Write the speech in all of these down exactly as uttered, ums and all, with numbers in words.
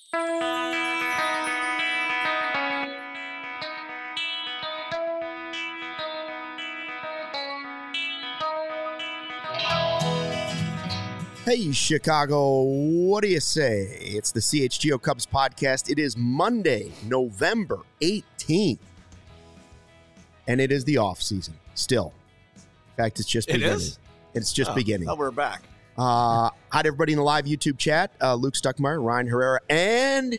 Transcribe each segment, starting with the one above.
Hey, Chicago, what do you say? It's the C H G O Cubs podcast. It is Monday, November eighteenth, and it is the off season still. In fact, it's just it beginning. Is? It's just oh, beginning. Oh, we're back. Uh, hi to everybody in the live YouTube chat. Uh, Luke Stuckmeyer, Ryan Herrera, and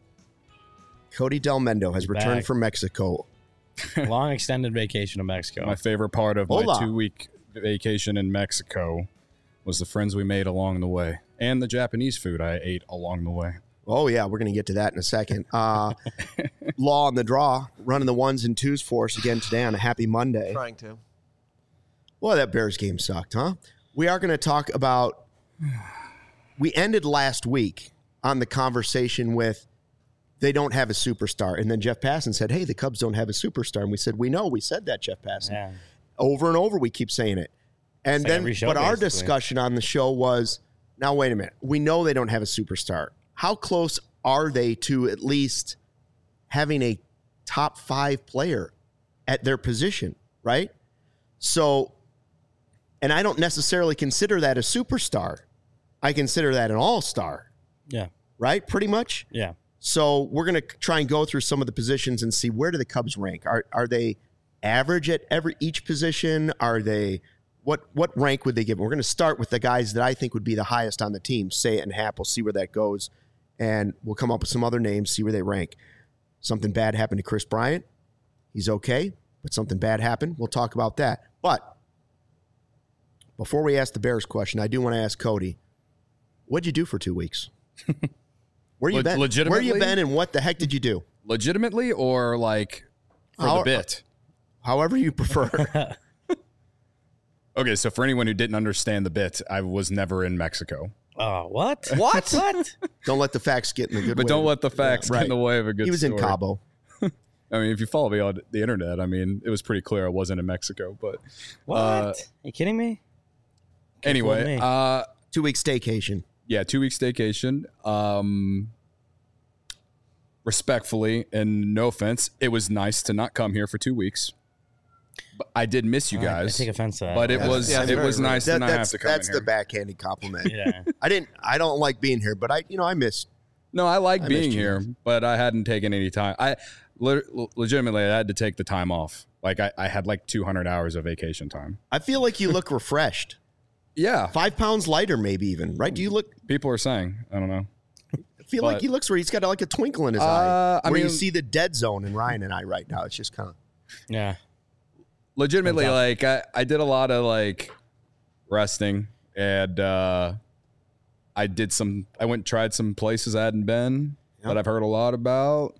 Cody Del Mendo has returned Back. from Mexico. Long extended vacation to Mexico. My favorite part of Hola. my two-week vacation in Mexico was the friends we made along the way and the Japanese food I ate along the way. Oh, yeah, we're going to get to that in a second. Uh, Law on the draw, running the ones and twos for us again today on a happy Monday. Trying to. Well, that Bears game sucked, huh? We are going to talk about, we ended last week on the conversation with they don't have a superstar. And then Jeff Passan said, hey, the Cubs don't have a superstar. And we said, we know, we said that, Jeff Passan. Yeah. Over and over, we keep saying it. And It's like then, every show, but our basically. discussion on the show was, now, wait a minute. We know they don't have a superstar. How close are they to at least having a top five player at their position, right? So, and I don't necessarily consider that a superstar. I consider that an all-star, Yeah. right? Pretty much. Yeah. So we're going to try and go through some of the positions and see where do the Cubs rank. Are are they average at every each position? Are they what what rank would they give? We're going to start with the guys that I think would be the highest on the team. Say it and Hap. We'll see where that goes, and we'll come up with some other names. See where they rank. Something bad happened to Chris Bryant. He's okay, but something bad happened. We'll talk about that. But before we ask the Bears question, I do want to ask Cody, what'd you do for two weeks? Where you Le- been? Where legitimately? you been, and what the heck did you do? Legitimately or like for How- the bit? However you prefer. Okay, so for anyone who didn't understand the bit, I was never in Mexico. Oh, what? What? What? Don't let the facts get in the good But way. don't let the facts Yeah, get in the right. way of a good He was story. in Cabo. I mean, if you follow me on the internet, I mean, it was pretty clear I wasn't in Mexico. But What? Uh, Are you kidding me? Can't anyway, fool me. uh, Two-week staycation. yeah, two weeks staycation. Um, respectfully, and no offense, it was nice to not come here for two weeks. But I did miss you I- I guys. take offense to that. But it Yeah, was yeah, it very was rude. nice That- to not that's have to come that's in the here. backhanded compliment. Yeah. I didn't. I don't like being here, but I, you know, I miss. No, I like I being missed you here, guys. but I hadn't taken any time. I le- legitimately I had to take the time off. Like I, I had like two hundred hours of vacation time. I feel like you look refreshed. Yeah, Five pounds lighter, maybe even. Right? Do you look? people are saying. I don't know. I feel like But- he looks where he's got like a twinkle in his Uh, eye. I Where you mean- see the dead zone in Ryan and I right now. It's just kind of. Yeah. Legitimately, Fantastic. like I, I did a lot of like resting, and uh, I did some. I went and tried some places I hadn't been Yep. that I've heard a lot about.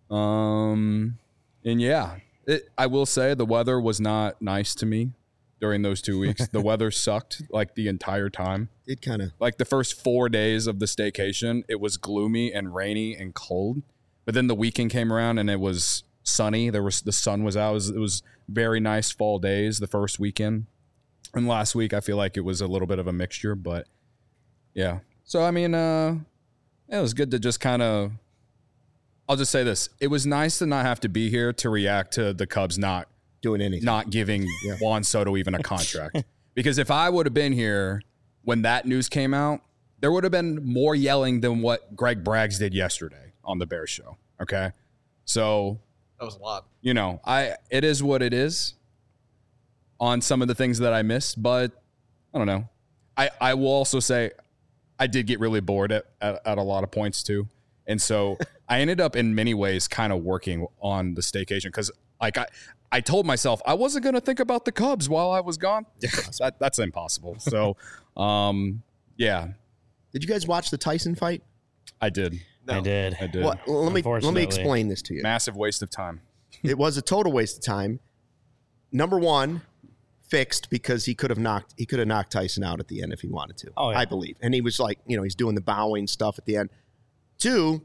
Um, and yeah, it, I will say the weather was not nice to me during those two weeks. The weather sucked like the entire time. It kind of. Like the first four days of the staycation, it was gloomy and rainy and cold. But then the weekend came around and it was sunny. There was the sun was out. It was, it was very nice fall days the first weekend. And last week, I feel like it was a little bit of a mixture. But yeah, so I mean, uh, it was good to just kind of. I'll just say this: it was nice to not have to be here to react to the Cubs not Doing anything. not giving Yeah. Juan Soto even a contract. Because if I would have been here when that news came out, there would have been more yelling than what Greg Braggs did yesterday on the Bears show. Okay. So, That was a lot. you know, I it is what it is on some of the things that I missed, but I don't know. I, I will also say I did get really bored at, at, at a lot of points too. And so I ended up in many ways kind of working on the staycation because like I, I told myself I wasn't going to think about the Cubs while I was gone. that, that's impossible. So, um, yeah, Did you guys watch the Tyson fight? I did. No. I did. I did. What? Let me let me Unfortunately. explain this to you. Massive waste of time. It was a total waste of time. Number one, fixed because he could have knocked he could have knocked Tyson out at the end if he wanted to. Oh, yeah. I believe. And he was like, you know, he's doing the bowing stuff at the end. Two,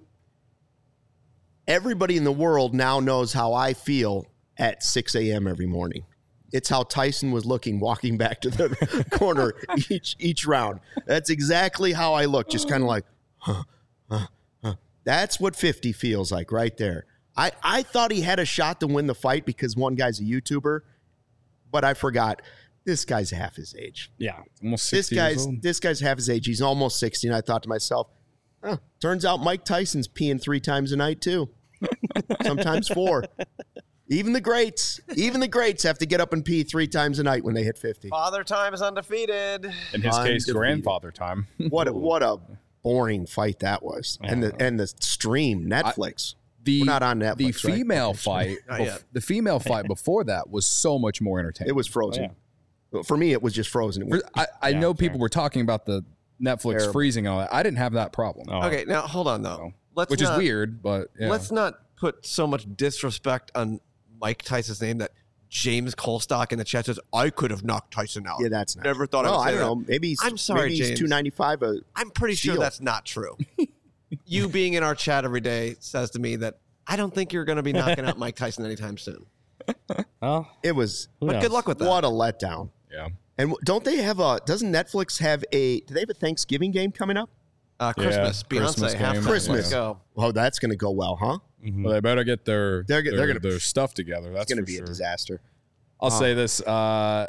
everybody in the world now knows how I feel at six a.m. every morning. It's how Tyson was looking walking back to the corner each each round. That's exactly how I look, just kind of like, huh, huh, huh. That's what fifty feels like right there. I, I thought he had a shot to win the fight because one guy's a YouTuber, but I forgot this guy's half his age. Yeah. Almost This sixty years guy's old. this guy's half his age. He's almost sixty, and I thought to myself, oh, turns out Mike Tyson's peeing three times a night too. Sometimes four. Even the greats, even the greats have to get up and pee three times a night when they hit fifty. Father time is undefeated. In his case, Undefeated. grandfather time. What a, what a boring fight that was. And the and the stream, Netflix. The, We're not on Netflix, The right? female fight, Not bef- yet. the female fight before that was so much more entertaining. It was frozen. Oh, For me, it was just frozen. It was, I, I Yeah, know fair. people were talking about the Netflix Terrible. freezing and all that. I didn't have that problem, Oh. Okay, now hold on though. Let's which not, is weird, but yeah. Let's not put so much disrespect on Mike Tyson's name that James Colstock in the chat says I could have knocked Tyson out. yeah, that's not. Never thought I Well, would say I don't that. know. Maybe he's, I'm sorry, maybe he's James. two ninety-five. Uh, I'm pretty sure Steal. that's not true. You being in our chat every day says to me that I don't think you're going to be knocking out Mike Tyson anytime soon. Oh, it was who But knows? good luck with that. what a letdown. yeah. And don't they have a? Doesn't Netflix have a? Do they have a Thanksgiving game coming up? Uh, Christmas, Yeah, Beyonce, Christmas half game. Christmas. Let's go. Oh, that's going to go well, huh? Mhm. Well, they better get their They're their, go- they're gonna- their stuff together. That's It's going to for be sure. a disaster. I'll Uh, say this: uh,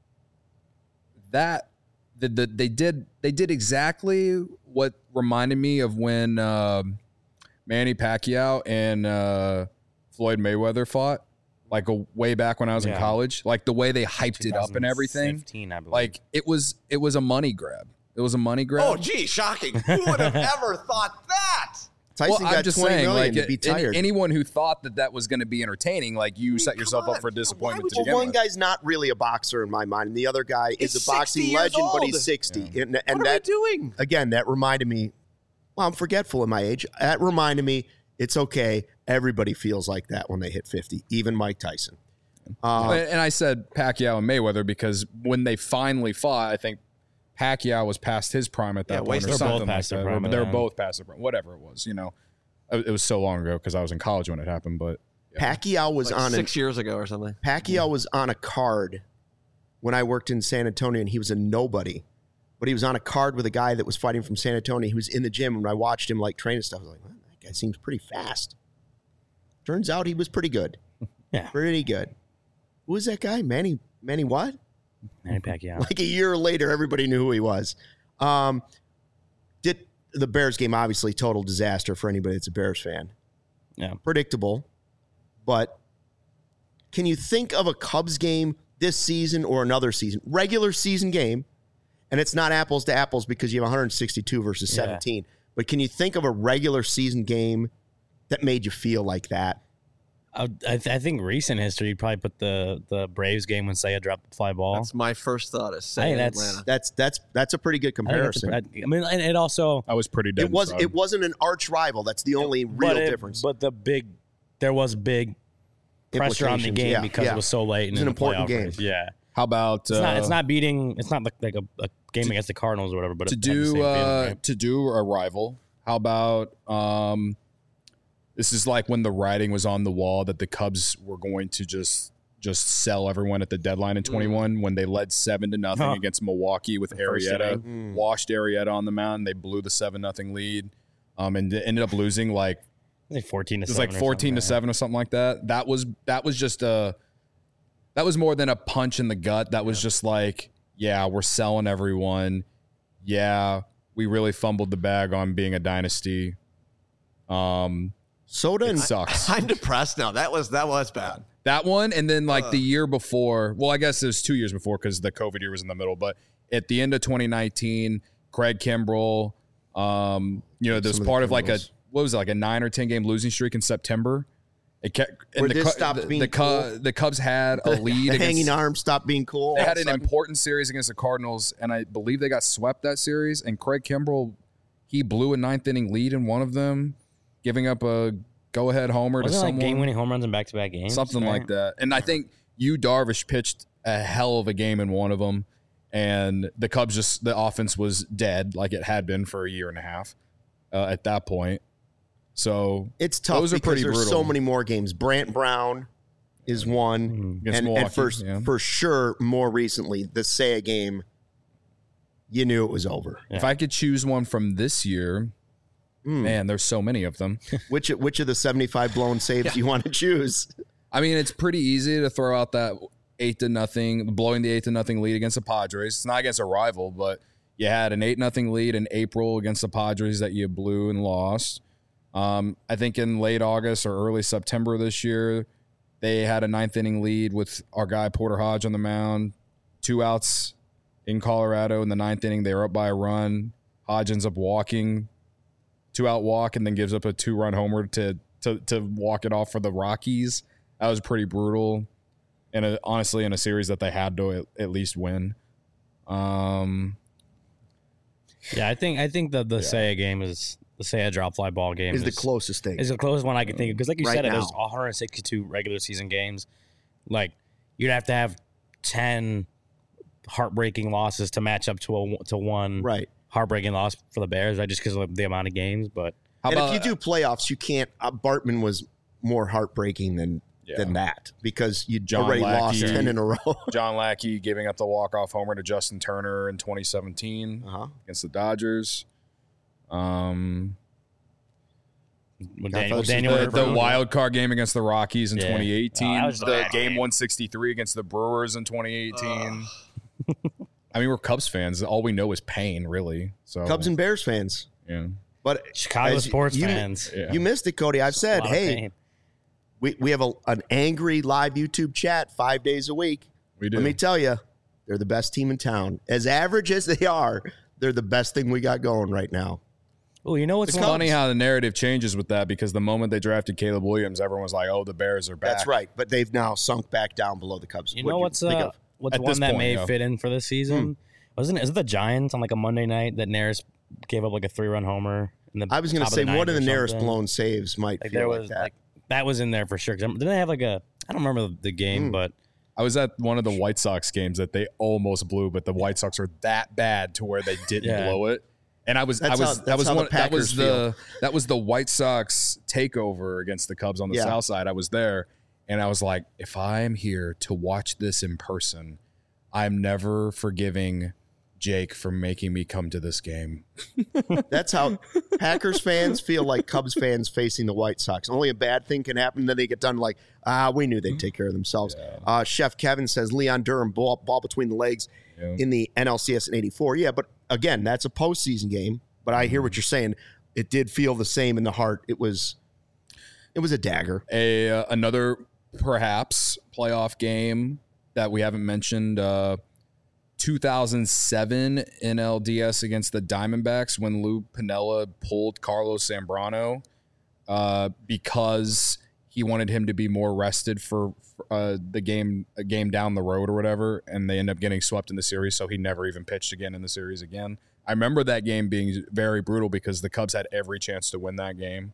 that the, the they did they did exactly what reminded me of when um Manny Pacquiao and uh, Floyd Mayweather fought, like a, way back when I was in Yeah. college. Like the way they hyped it up and everything. twenty fifteen, I believe. Like it was it was a money grab. It was a money grab. Oh, gee, shocking. Who would have ever thought that? Tyson Well, got I'm just twenty saying, million like to be any- tired. anyone who thought that that was going to be entertaining, like you set come yourself on. up for Why disappointment would to well, begin one with. guy's not really a boxer in my mind, and the other guy He's is a boxing sixty years legend, but he's old. sixty. And, and What are that we doing? again, that reminded me. Well, I'm forgetful in my age. That reminded me it's okay. Everybody feels like that when they hit fifty, even Mike Tyson. Uh, And and I said Pacquiao and Mayweather because when they finally fought, I think Pacquiao was past his prime at that Yeah, point, wasted- or They're both something like past their that. prime But at they were that both past their prime, whatever it was. You know, it it was so long ago because I was in college when it happened. But yeah. Pacquiao was Like on six an, years ago or something. Pacquiao was on a card when I worked in San Antonio, and he was a nobody. But he was on a card with a guy that was fighting from San Antonio. He was in the gym, and I watched him like train and stuff. I was like, well, that guy seems pretty fast. Turns out he was pretty good. Yeah. Pretty good. Who was that guy? Manny Manny what? Manny Pacquiao. Like a year later, everybody knew who he was. Um, did the Bears game obviously total disaster for anybody that's a Bears fan. Yeah. Predictable. But can you think of a Cubs game this season or another season? Regular season game, and it's not apples to apples because you have one hundred sixty-two versus Yeah. seventeen. But can you think of a regular season game that made you feel like that? I, I, th- I think recent history, you'd probably put the, the Braves game when Seiya dropped the fly ball. That's my first thought. Is I think saying that's- Atlanta. That's that's that's a pretty good I think that's a- comparison. I, I mean, and it also I was pretty dead. It was inside. it wasn't an arch rival. That's the only real but it- difference. But the big, there was big pressure on the Implications, game yeah, because yeah. it was so late. And It's an in the important playoff game. race. Yeah. How about It's uh, not. It's not beating. It's not like, like a, a game against the Cardinals or whatever. But to it had the same do feeling, uh, right? to do a rival? How about um, this is like when the writing was on the wall that the Cubs were going to just just sell everyone at the deadline in twenty-one when they led seven to nothing Huh. against Milwaukee with first Arrieta, inning. washed Arrieta on the mound. They blew the seven nothing lead, um, and ended up losing like I think fourteen to it was seven. like or fourteen to something, seven or something like that. That was that was just a that was more than a punch in the gut. That was just like, yeah, we're selling everyone. Yeah, we really fumbled the bag on being a dynasty. Um, Soda it and sucks. I'm depressed now. That was that was bad. That one, and then like Ugh. the year before. Well, I guess it was two years before because the COVID year was in the middle. But at the end of twenty nineteen, Craig Kimbrell, um, you know, there's Some of the part of like a Kimbrells. what was it, like a nine or ten game losing streak in September. It kept and Where the, this Cu- stopped the, being the, Cu- cool. the Cubs had a lead. the against, hanging arm stopped being cool. They all had of an a sudden. important series against the Cardinals, and I believe they got swept that series. And Craig Kimbrell, he blew a ninth inning lead in one of them, giving up a go ahead homer to Wasn't it like someone. game winning home runs in back to back games? Something right? like that. And I think Yu Darvish pitched a hell of a game in one of them, and the Cubs just the offense was dead like it had been for a year and a half uh, at that point. So It's tough Those are because pretty there's brutal. so many more games. Brant Brown is one, Mhm. against and, Milwaukee, and for yeah. for sure, more recently, the Seiya game, you knew it was over. if I could choose one from this year, Man, there's so many of them. Which which of the seventy-five blown saves do you want to choose? I mean, it's pretty easy to throw out that eight to nothing, blowing the eight to nothing lead against the Padres. It's not against a rival, but you had an eight nothing lead in April against the Padres that you blew and lost. Um, I think in late August or early September this year, they had a ninth inning lead with our guy Porter Hodge on the mound. Two outs in Colorado in the ninth inning. They were up by a run. Hodge ends up walking, two out walk, and then gives up a two run homer to to to walk it off for the Rockies. That was pretty brutal, and a, honestly, in a series that they had to at, at least win. Um, Yeah, I think I think the the Seiya game is the Seiya drop fly ball game Is the closest thing. is the closest one I can think of because, like you Right said, now. there's one hundred sixty-two regular season games. Like you'd have to have ten heartbreaking losses to match up to a to one Right. heartbreaking loss for the Bears, right? Just because of the amount of games. But how and about if you do playoffs, you can't. Uh, Bartman was more heartbreaking than Yeah. than that because you John already lost Lackey. ten in a row. John Lackey giving up the walk-off homer to Justin Turner in twenty seventeen uh-huh. against the Dodgers? Um, with God, Daniel, folks, Daniel the, Herrera- the wild card game against the Rockies in Yeah. twenty eighteen, Oh, that was a the bad game game. one sixty-three against the Brewers in twenty eighteen. I mean, we're Cubs fans. All we know is pain, really. So Cubs and Bears fans, yeah, but Chicago as sports you, fans. yeah. You missed it, Cody. I've A said, lot of hey, pain. we, we have a, an angry live YouTube chat five days a week. we do. Let me tell you, they're the best team in town. As average as they are, they're the best thing we got going right now. Oh, you know what's It's funny how the narrative changes with that because the moment they drafted Caleb Williams, everyone was like, "Oh, the Bears are back." That's right. But they've now sunk back down below the Cubs. You What'd know what's think uh, of? what's At one this that point, may yeah. fit in for this season? Wasn't it? Is it the Giants on like a Monday night that Naris gave up like a three run homer? In the I was going to top say of the one of the ninth or nearest something? blown saves might Like feel there like was that. like that was in there for sure. 'Cause didn't they have like a? I don't remember the game, Hmm. but I was at one of the White Sox games that they almost blew, but the White Sox are that bad to where they didn't Yeah. blow it. And I was, I That's was, how- that that's was how the one, that was Packers the, that was the White Sox takeover against the Cubs on the Yeah. South Side. I was there, and I was like, if I am here to watch this in person, I'm never forgiving Jake for making me come to this game. That's how Packers fans feel like Cubs fans facing the White Sox. Only a bad thing can happen, then they get done like, ah, we knew they'd take care of themselves. Uh, Chef Kevin says Leon Durham ball, ball between the legs Yeah. in the N L C S in eighty-four. Yeah, but again, that's a postseason game. But I hear what you're saying. It did feel the same in the heart. It was, it was a dagger. A uh, another perhaps playoff game that we haven't mentioned. Uh, two thousand seven N L D S against the Diamondbacks when Lou Piniella pulled Carlos Zambrano uh, because he wanted him to be more rested for, for uh, the game a game down the road or whatever, and they end up getting swept in the series, so he never even pitched again in the series again. I remember that game being very brutal because the Cubs had every chance to win that game.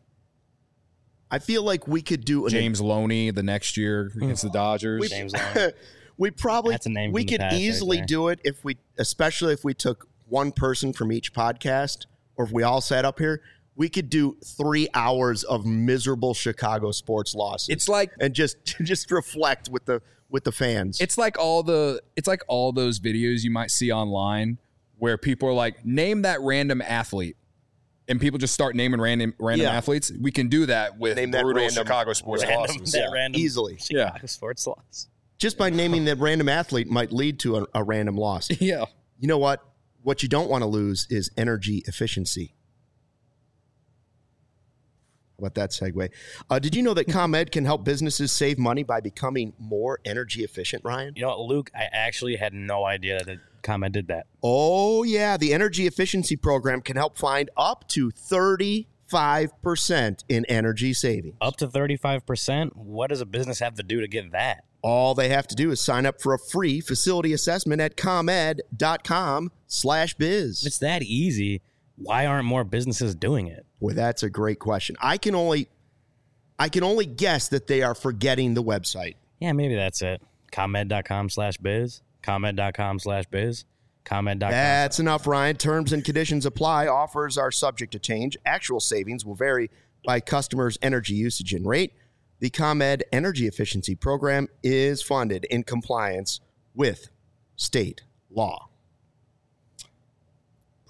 I feel like we could do an James Loney the next year against the Dodgers. James Long. we probably That's a name we from the could past right easily there. do it if we, especially if we took one person from each podcast, or if we all sat up here. We could do three hours of miserable Chicago sports losses. It's like and just just reflect with the with the fans. it's like all the it's like all those videos you might see online where people are like, name that random athlete, and people just start naming random random Yeah. athletes. We can do that with Name that brutal random- Chicago sports Random, losses. that Yeah, random easily. Chicago Yeah. sports loss. just by naming that random athlete might lead to a, a random loss. Yeah. You know what? What you don't want to lose is energy efficiency. How about that segue? Uh, did you know that ComEd can help businesses save money by becoming more energy efficient, Ryan? You know, what, Luke, I actually had no idea that comment did that. Oh, yeah. The energy efficiency program can help find up to thirty-five percent in energy savings. Up to thirty-five percent? What does a business have to do to get that? All they have to do is sign up for a free facility assessment at ComEd.com slash biz. If it's that easy, why aren't more businesses doing it? Boy, that's a great question. I can only I can only guess that they are forgetting the website. Yeah, maybe that's it. ComEd.com slash biz. ComEd.com slash biz. ComEd dot com. That's enough, Ryan. Terms and conditions apply. Offers are subject to change. Actual savings will vary by customers' energy usage and rate. The ComEd Energy Efficiency Program is funded in compliance with state law.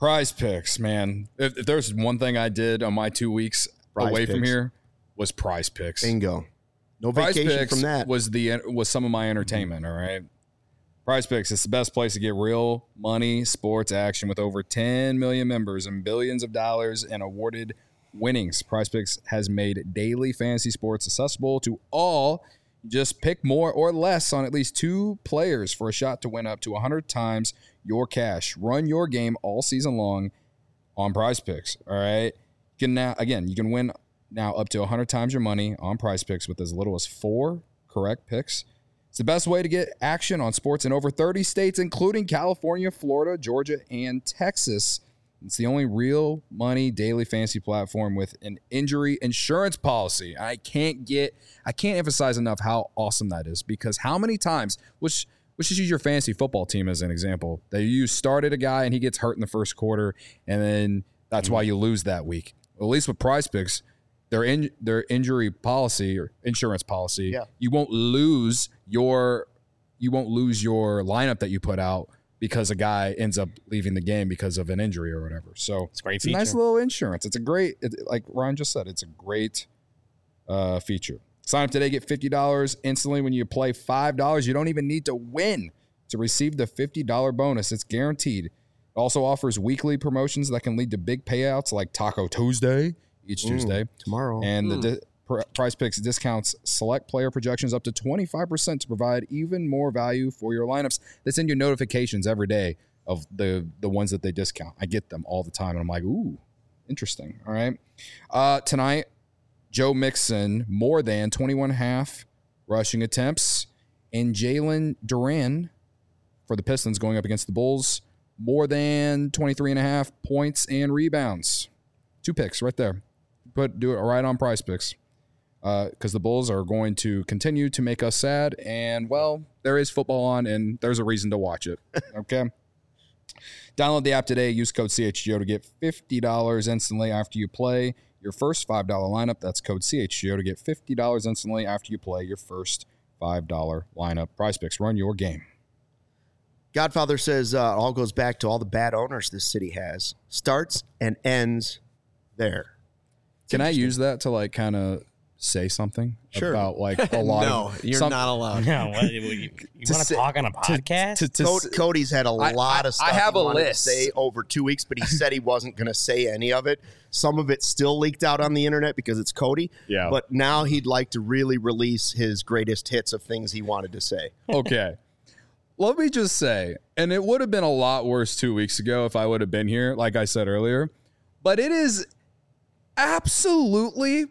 Prize Picks, man. If, if there's one thing I did on my two weeks Prize away from Picks. here, was Prize Picks. Bingo. No Prize vacation Picks from that. was the was some of my entertainment. All right. Prize Picks is the best place to get real money sports action with over ten million members and billions of dollars in awarded winnings. Prize Picks has made daily fantasy sports accessible to all. Just pick more or less on at least two players for a shot to win up to one hundred times your cash. Run your game all season long on Prize Picks. All right. You can now again, you can win now up to one hundred times your money on Prize Picks with as little as four correct picks. It's the best way to get action on sports in over thirty states, including California, Florida, Georgia, and Texas. It's the only real money daily fantasy platform with an injury insurance policy. I can't get, I can't emphasize enough how awesome that is, because how many times, which, let's just use your fantasy football team as an example, that you started a guy and he gets hurt in the first quarter, and then that's mm-hmm. why you lose that week. Well, at least with Prize Picks, their in, their injury policy or insurance policy, yeah. you won't lose your you won't lose your lineup that you put out because a guy ends up leaving the game because of an injury or whatever. So it's, great it's a nice little insurance. It's a great, it, like Ryan just said, it's a great uh, feature. Sign up today, get fifty dollars instantly when you play five dollars. You don't even need to win to receive the fifty dollars bonus. It's guaranteed. It also offers weekly promotions that can lead to big payouts like Taco Tuesday each mm, Tuesday. Tomorrow. And mm. the di- pr- Prize Picks discounts select player projections up to twenty-five percent to provide even more value for your lineups. They send you notifications every day of the, the ones that they discount. I get them all the time, and I'm like, ooh, interesting. All right. Uh, tonight, Joe Mixon, more than twenty-one and a half rushing attempts, and Jalen Duran for the Pistons going up against the Bulls, more than twenty-three and a half points and rebounds. Two picks right there. Put do it right on Prize Picks, because uh, the Bulls are going to continue to make us sad. And well, there is football on, and there's a reason to watch it. Okay. Download the app today. Use code C H G O to get fifty dollars instantly after you play your first five dollars lineup. That's code C H G O to get fifty dollars instantly after you play your first five dollars lineup. Prize Picks, run your game. Godfather says uh, it all goes back to all the bad owners this city has. Starts and ends there. Can I use that to like kind of say something sure. about like a lot no, of... No, you're some, not allowed. No, what, you, you want to talk on a podcast? To, to, to, Cody, Cody's had a I, lot I, of stuff I have he a wanted list. to say over two weeks, but he said he wasn't going to say any of it. Some of it still leaked out on the internet because it's Cody. Yeah. But now he'd like to really release his greatest hits of things he wanted to say. Okay. Let me just say, and it would have been a lot worse two weeks ago if I would have been here, like I said earlier, but it is absolutely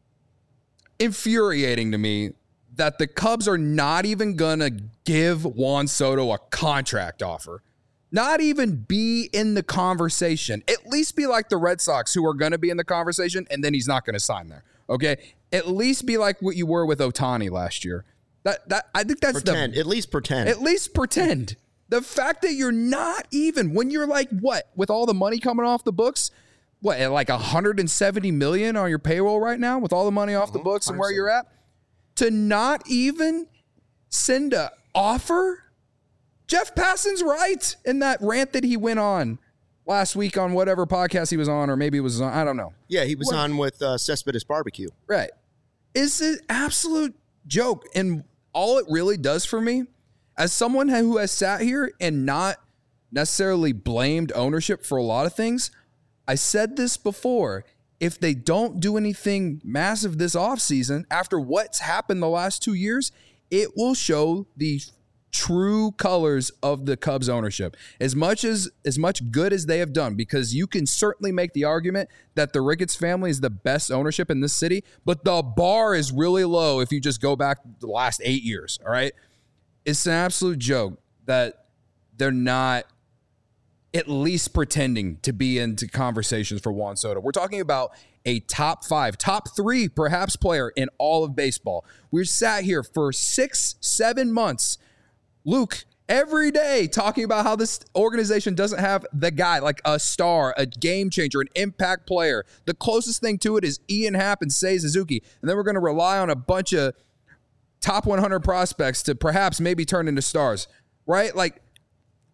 infuriating to me that the Cubs are not even going to give Juan Soto a contract offer. Not even be in the conversation. At least be like the Red Sox, who are going to be in the conversation, and then he's not going to sign there. Okay? At least be like what you were with Ohtani last year. That that I think that's pretend. the... At least pretend. At least pretend. The fact that you're not even, when you're like, what, with all the money coming off the books, what, at like one hundred seventy million on your payroll right now with all the money off the books and where you're at, to not even send a offer? Jeff Passan's right in that rant that he went on last week on whatever podcast he was on, or maybe it was on, I don't know. Yeah, he was what? on with uh, Cespedes Barbecue. Right. It's an absolute joke. And all it really does for me, as someone who has sat here and not necessarily blamed ownership for a lot of things, I said this before. If they don't do anything massive this offseason, after what's happened the last two years, it will show the true colors of the Cubs ownership. As much as as much good as they have done, because you can certainly make the argument that the Ricketts family is the best ownership in this city, but the bar is really low if you just go back the last eight years, all right? It's an absolute joke that they're not at least pretending to be into conversations for Juan Soto. We're talking about a top five, top three, perhaps, player in all of baseball. We're sat here for six, seven months, Luke, every day talking about how this organization doesn't have the guy, like a star, a game changer, an impact player. The closest thing to it is Ian Happ and Seiya Suzuki. And then we're going to rely on a bunch of top one hundred prospects to perhaps maybe turn into stars, right? Like,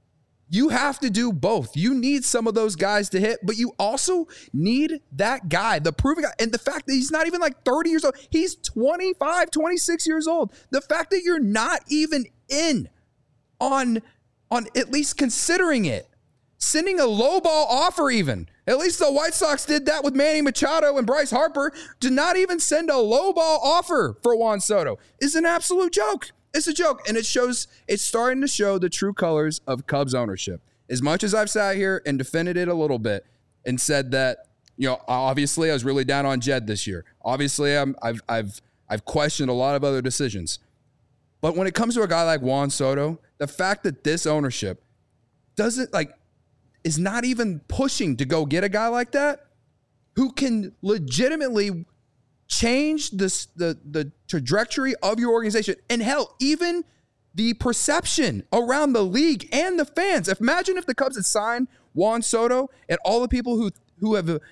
You have to do both. You need some of those guys to hit, but you also need that guy, the proven guy. And the fact that he's not even like thirty years old, he's twenty-five, twenty-six years old. The fact that you're not even in on, on at least considering it, sending a low ball offer even. At least the White Sox did that with Manny Machado and Bryce Harper. To not even send a low ball offer for Juan Soto is an absolute joke. It's a joke, and it shows. It's starting to show the true colors of Cubs ownership. As much as I've sat here and defended it a little bit and said that, you know, obviously I was really down on Jed this year. Obviously, I'm, I've I've I've questioned a lot of other decisions. But when it comes to a guy like Juan Soto, the fact that this ownership doesn't like is not even pushing to go get a guy like that who can legitimately change this, the, the trajectory of your organization. And hell, even the perception around the league and the fans. Imagine if the Cubs had signed Juan Soto and all the people who, who have,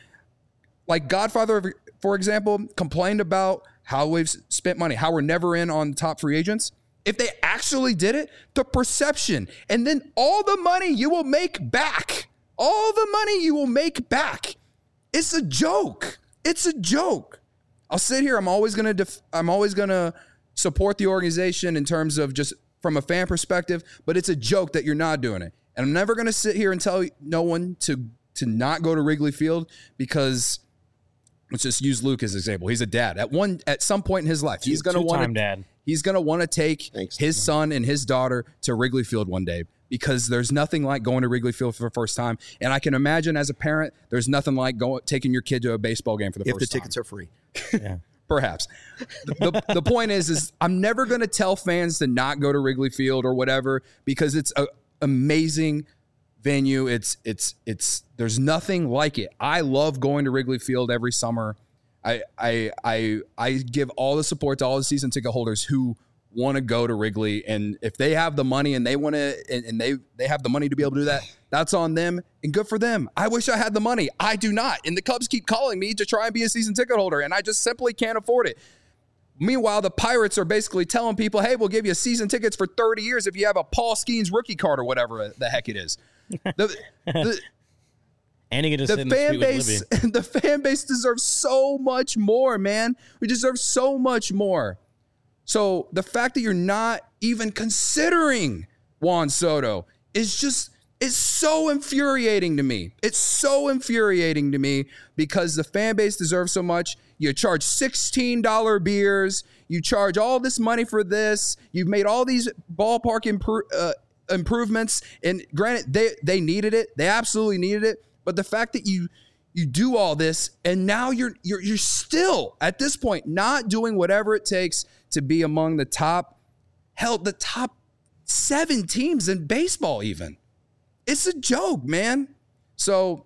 like Godfather, for example, complained about how we've spent money, how we're never in on top free agents. If they actually did it, the perception, and then all the money you will make back, all the money you will make back. It's a joke. It's a joke. I'll sit here. I'm always gonna. Def- I'm always gonna support the organization in terms of just from a fan perspective. But it's a joke that you're not doing it. And I'm never gonna sit here and tell no one to to not go to Wrigley Field because let's just use Luke as an example. He's a dad. At one at some point in his life, he's gonna want to. Dad. He's gonna want to take Thanks, his son and his daughter to Wrigley Field one day. Because there's nothing like going to Wrigley Field for the first time. And I can imagine as a parent, there's nothing like going taking your kid to a baseball game for the If first the time. tickets are free. Yeah. Perhaps. The, the, the point is, is I'm never going to tell fans to not go to Wrigley Field or whatever because it's an amazing venue. It's, it's, it's, there's nothing like it. I love going to Wrigley Field every summer. I, I, I, I give all the support to all the season ticket holders who want to go to Wrigley, and if they have the money and they want to and, and they they have the money to be able to do that, that's on them and good for them. I wish I had the money. I do not, and the Cubs keep calling me to try and be a season ticket holder, and I just simply can't afford it. Meanwhile, the Pirates are basically telling people, hey, we'll give you season tickets for thirty years if you have a Paul Skeens rookie card or whatever the heck it is. The, the, And you get to the sit in the fan street with base Libby. the fan base deserves so much more, man. We deserve so much more. So the fact that you're not even considering Juan Soto is just, it's so infuriating to me. It's so infuriating to me because the fan base deserves so much. You charge sixteen dollars beers. You charge all this money for this. You've made all these ballpark impro- uh, improvements. And granted, they, they needed it. They absolutely needed it. But the fact that you you do all this and now you're you're you're still at this point not doing whatever it takes to be among the top, hell, the top seven teams in baseball even. It's a joke, man. So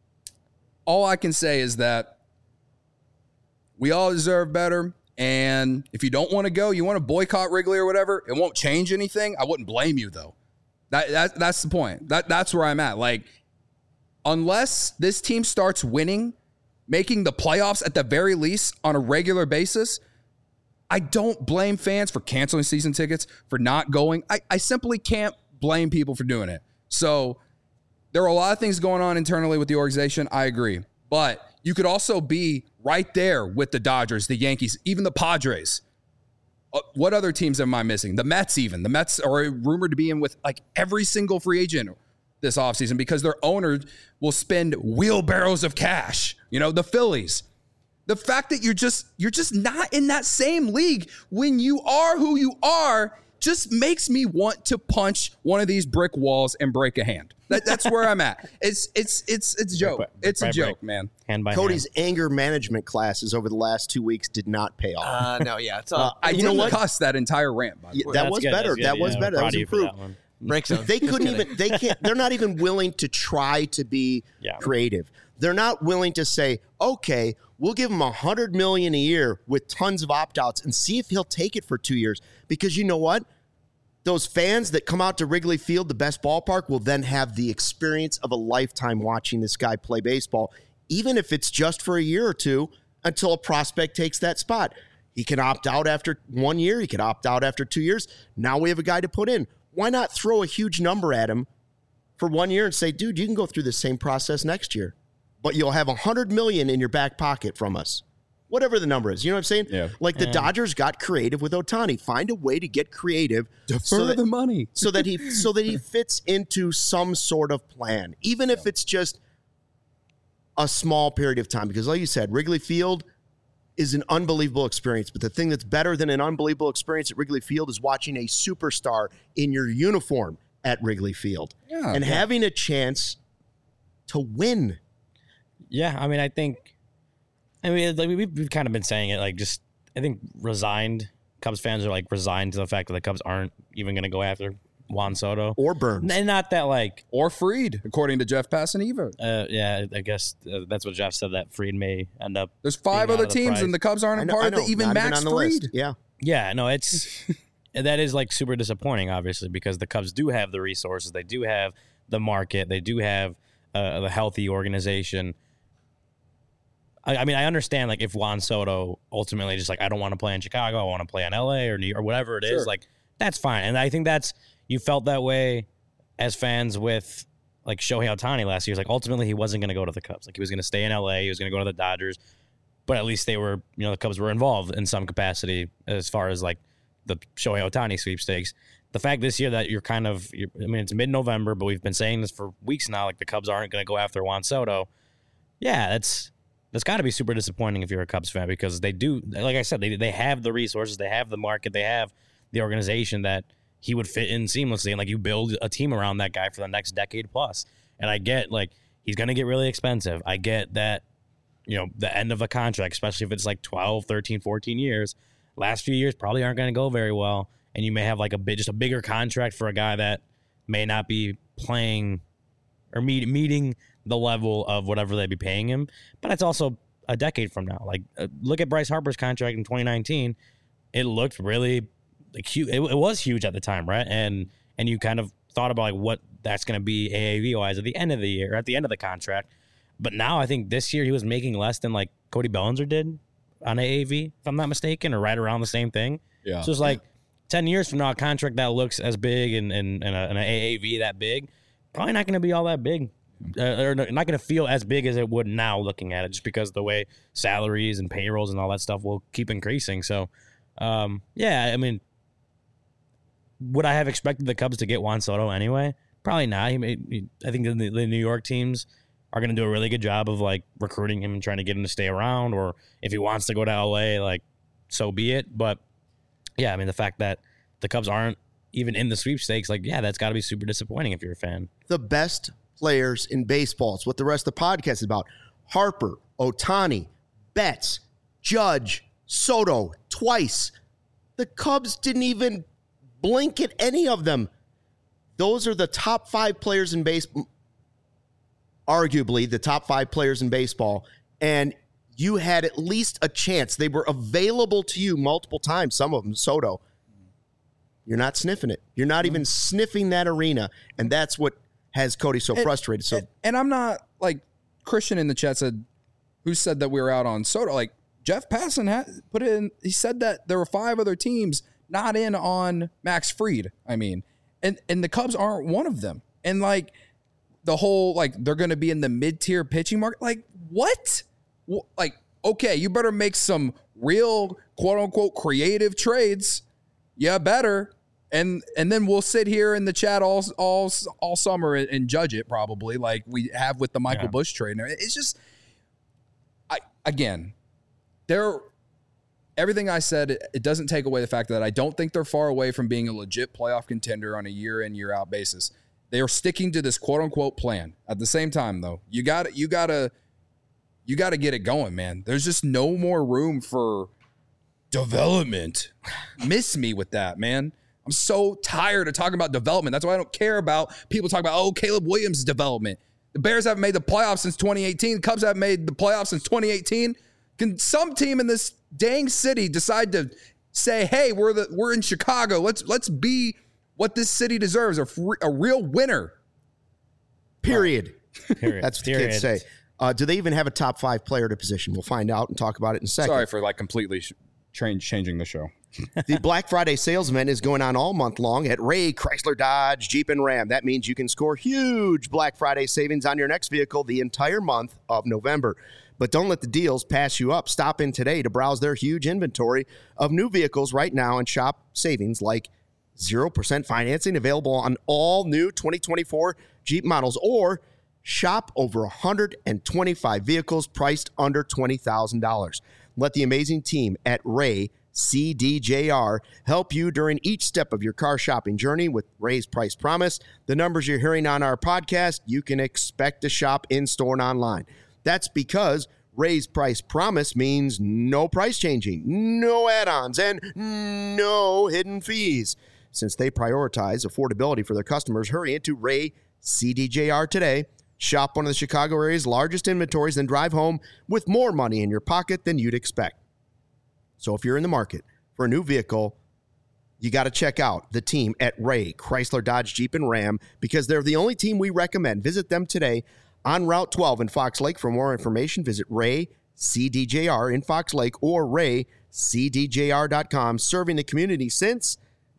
all I can say is that we all deserve better. And if you don't want to go, you want to boycott Wrigley or whatever, it won't change anything. I wouldn't blame you though. That, that that's the point. That that's where I'm at. Like, unless this team starts winning, making the playoffs at the very least on a regular basis, I don't blame fans for canceling season tickets, for not going. I, I simply can't blame people for doing it. So there are a lot of things going on internally with the organization. I agree. But you could also be right there with the Dodgers, the Yankees, even the Padres. Uh, what other teams am I missing? The Mets even. The Mets are rumored to be in with like every single free agent this offseason because their owner will spend wheelbarrows of cash. You know, the Phillies. The fact that you're just you're just not in that same league when you are who you are just makes me want to punch one of these brick walls and break a hand. That, that's where I'm at. It's it's it's it's a joke. Brick by- It's a brick by joke, brick. man. Hand by Cody's hand. anger management classes over the last two weeks did not pay off. Uh, no, yeah, it's Uh, all I You didn't know what? cuss that entire rant, by the Yeah, way. that That's was good, better. that's good, That was yeah, better. That proud was of you for improved. that one. break zone. They Just couldn't kidding. even. They can't. They're not even willing to try to be Yeah. creative. They're not willing to say, okay, we'll give him a hundred million a year with tons of opt outs and see if he'll take it for two years. Because you know what? Those fans that come out to Wrigley Field, the best ballpark, will then have the experience of a lifetime watching this guy play baseball, even if it's just for a year or two until a prospect takes that spot. He can opt out after one year. He can opt out after two years. Now we have a guy to put in. Why not throw a huge number at him for one year and say, dude, you can go through the same process next year, but you'll have one hundred million dollars in your back pocket from us. Whatever the number is. You know what I'm saying? Yeah. Like the Yeah. Dodgers got creative with Ohtani. Find a way to get creative Defer so that, the money. so that he so that he fits into some sort of plan, even if it's just a small period of time. Because like you said, Wrigley Field is an unbelievable experience. But the thing that's better than an unbelievable experience at Wrigley Field is watching a superstar in your uniform at Wrigley Field Yeah, and yeah. having a chance to win. Yeah, I mean, I think, I mean, like we've, we've kind of been saying it, like just, I think resigned Cubs fans are like resigned to the fact that the Cubs aren't even going to go after Juan Soto. Or Burns. And not that like, Or Freed, according to Jeff Passaneva. uh, yeah, I guess uh, that's what Jeff said, that Freed may end up. There's five being out other of the teams, price. and the Cubs aren't I a know- part I of know, the even not Max on the Freed. list. Yeah. Yeah, no, it's, that is like super disappointing, obviously, because the Cubs do have the resources. They do have the market. They do have uh, the healthy organization. I, I mean, I understand like if Juan Soto ultimately just like, I don't want to play in Chicago, I want to play in L A or New York or whatever it is, Sure. like that's fine. And I think that's, you felt that way as fans with like Shohei Ohtani last year. It's like ultimately he wasn't going to go to the Cubs. Like he was going to stay in L A, he was going to go to the Dodgers, but at least they were, you know, the Cubs were involved in some capacity as far as like the Shohei Ohtani sweepstakes. The fact this year that you're kind of, you're, I mean, it's mid-November, but we've been saying this for weeks now, like the Cubs aren't going to go after Juan Soto. Yeah, that's that's got to be super disappointing if you're a Cubs fan, because they do, like I said, they they have the resources, they have the market, they have the organization that he would fit in seamlessly, and like you build a team around that guy for the next decade plus. And I get like he's going to get really expensive. I get that, you know, the end of a contract, especially if it's like twelve, thirteen, fourteen years. Last few years probably aren't going to go very well, and you may have like a bit just a bigger contract for a guy that may not be playing or meet, meeting the level of whatever they'd be paying him. But it's also a decade from now. Like uh, look at Bryce Harper's contract in twenty nineteen. It looked really like huge. It, it was huge at the time, right? And and you kind of thought about like what that's going to be A A V wise at the end of the year, at the end of the contract. But now I think this year he was making less than like Cody Bellinger did on A A V, if I'm not mistaken, or right around the same thing. Yeah. So it's like ten years from now, a contract that looks as big and, and, and, a, and an A A V that big, probably not going to be all that big. Uh, or not going to feel as big as it would now looking at it, just because the way salaries and payrolls and all that stuff will keep increasing. So, um, yeah, I mean, would I have expected the Cubs to get Juan Soto anyway? Probably not. He may, he, I think the, the New York teams are going to do a really good job of like recruiting him and trying to get him to stay around, or if he wants to go to L A, like so be it. But yeah, I mean, the fact that the Cubs aren't even in the sweepstakes, like, yeah, that's got to be super disappointing if you're a fan. The best players in baseball. It's what the rest of the podcast is about. Harper, Ohtani, Betts, Judge, Soto, twice. The Cubs didn't even blink at any of them. Those are the top five players in baseball, arguably the top five players in baseball, and you had at least a chance. They were available to you multiple times, some of them, Soto. You're not sniffing it. You're not even sniffing that arena, and that's what has Cody so frustrated. So, And, and I'm not like Christian in the chat said, who said that we were out on Soto? Like Jeff Passan had put it in. He said that there were five other teams not in on Max Fried. I mean, and and the Cubs aren't one of them. And like the whole like they're going to be in the mid tier pitching market. Like what? Wh- Like okay, you better make some real quote unquote creative trades. Yeah, better. And and then we'll sit here in the chat all all all summer and, and judge it probably like we have with the Michael Yeah. Busch trade. It's just, I again, they're everything I said. It, it doesn't take away the fact that I don't think they're far away from being a legit playoff contender on a year in year out basis. They are sticking to this quote unquote plan. At the same time, though, you got you gotta you gotta get it going, man. There's just no more room for development. Miss me with that, man. I'm so tired of talking about development. That's why I don't care about people talking about, oh, Caleb Williams' development. The Bears haven't made the playoffs since twenty eighteen. The Cubs haven't made the playoffs since twenty eighteen. Can some team in this dang city decide to say, hey, we're the we're in Chicago. Let's let's be what this city deserves, a, free, a real winner. period. Period. That's what the Period. kids say. Uh, do they even have a top five player to position? We'll find out and talk about it in a second. Sorry for like completely sh- train changing the show. The Black Friday sales event is going on all month long at Ray Chrysler Dodge Jeep and Ram. That means you can score huge Black Friday savings on your next vehicle the entire month of November. But don't let the deals pass you up. Stop in today to browse their huge inventory of new vehicles right now and shop savings like zero percent financing available on all new twenty twenty-four Jeep models, or shop over one hundred twenty-five vehicles priced under twenty thousand dollars. Let the amazing team at Ray C D J R help you during each step of your car shopping journey with Ray's Price Promise. The numbers you're hearing on our podcast, you can expect to shop in-store and online. That's because Ray's Price Promise means no price changing, no add-ons, and no hidden fees. Since they prioritize affordability for their customers, hurry into Ray C D J R today. Shop one of the Chicago area's largest inventories, then drive home with more money in your pocket than you'd expect. So if you're in the market for a new vehicle, you got to check out the team at Ray Chrysler Dodge Jeep and Ram, because they're the only team we recommend. Visit them today on Route twelve in Fox Lake. For more information, visit Ray C D J R in Fox Lake or ray c d j r dot com, serving the community since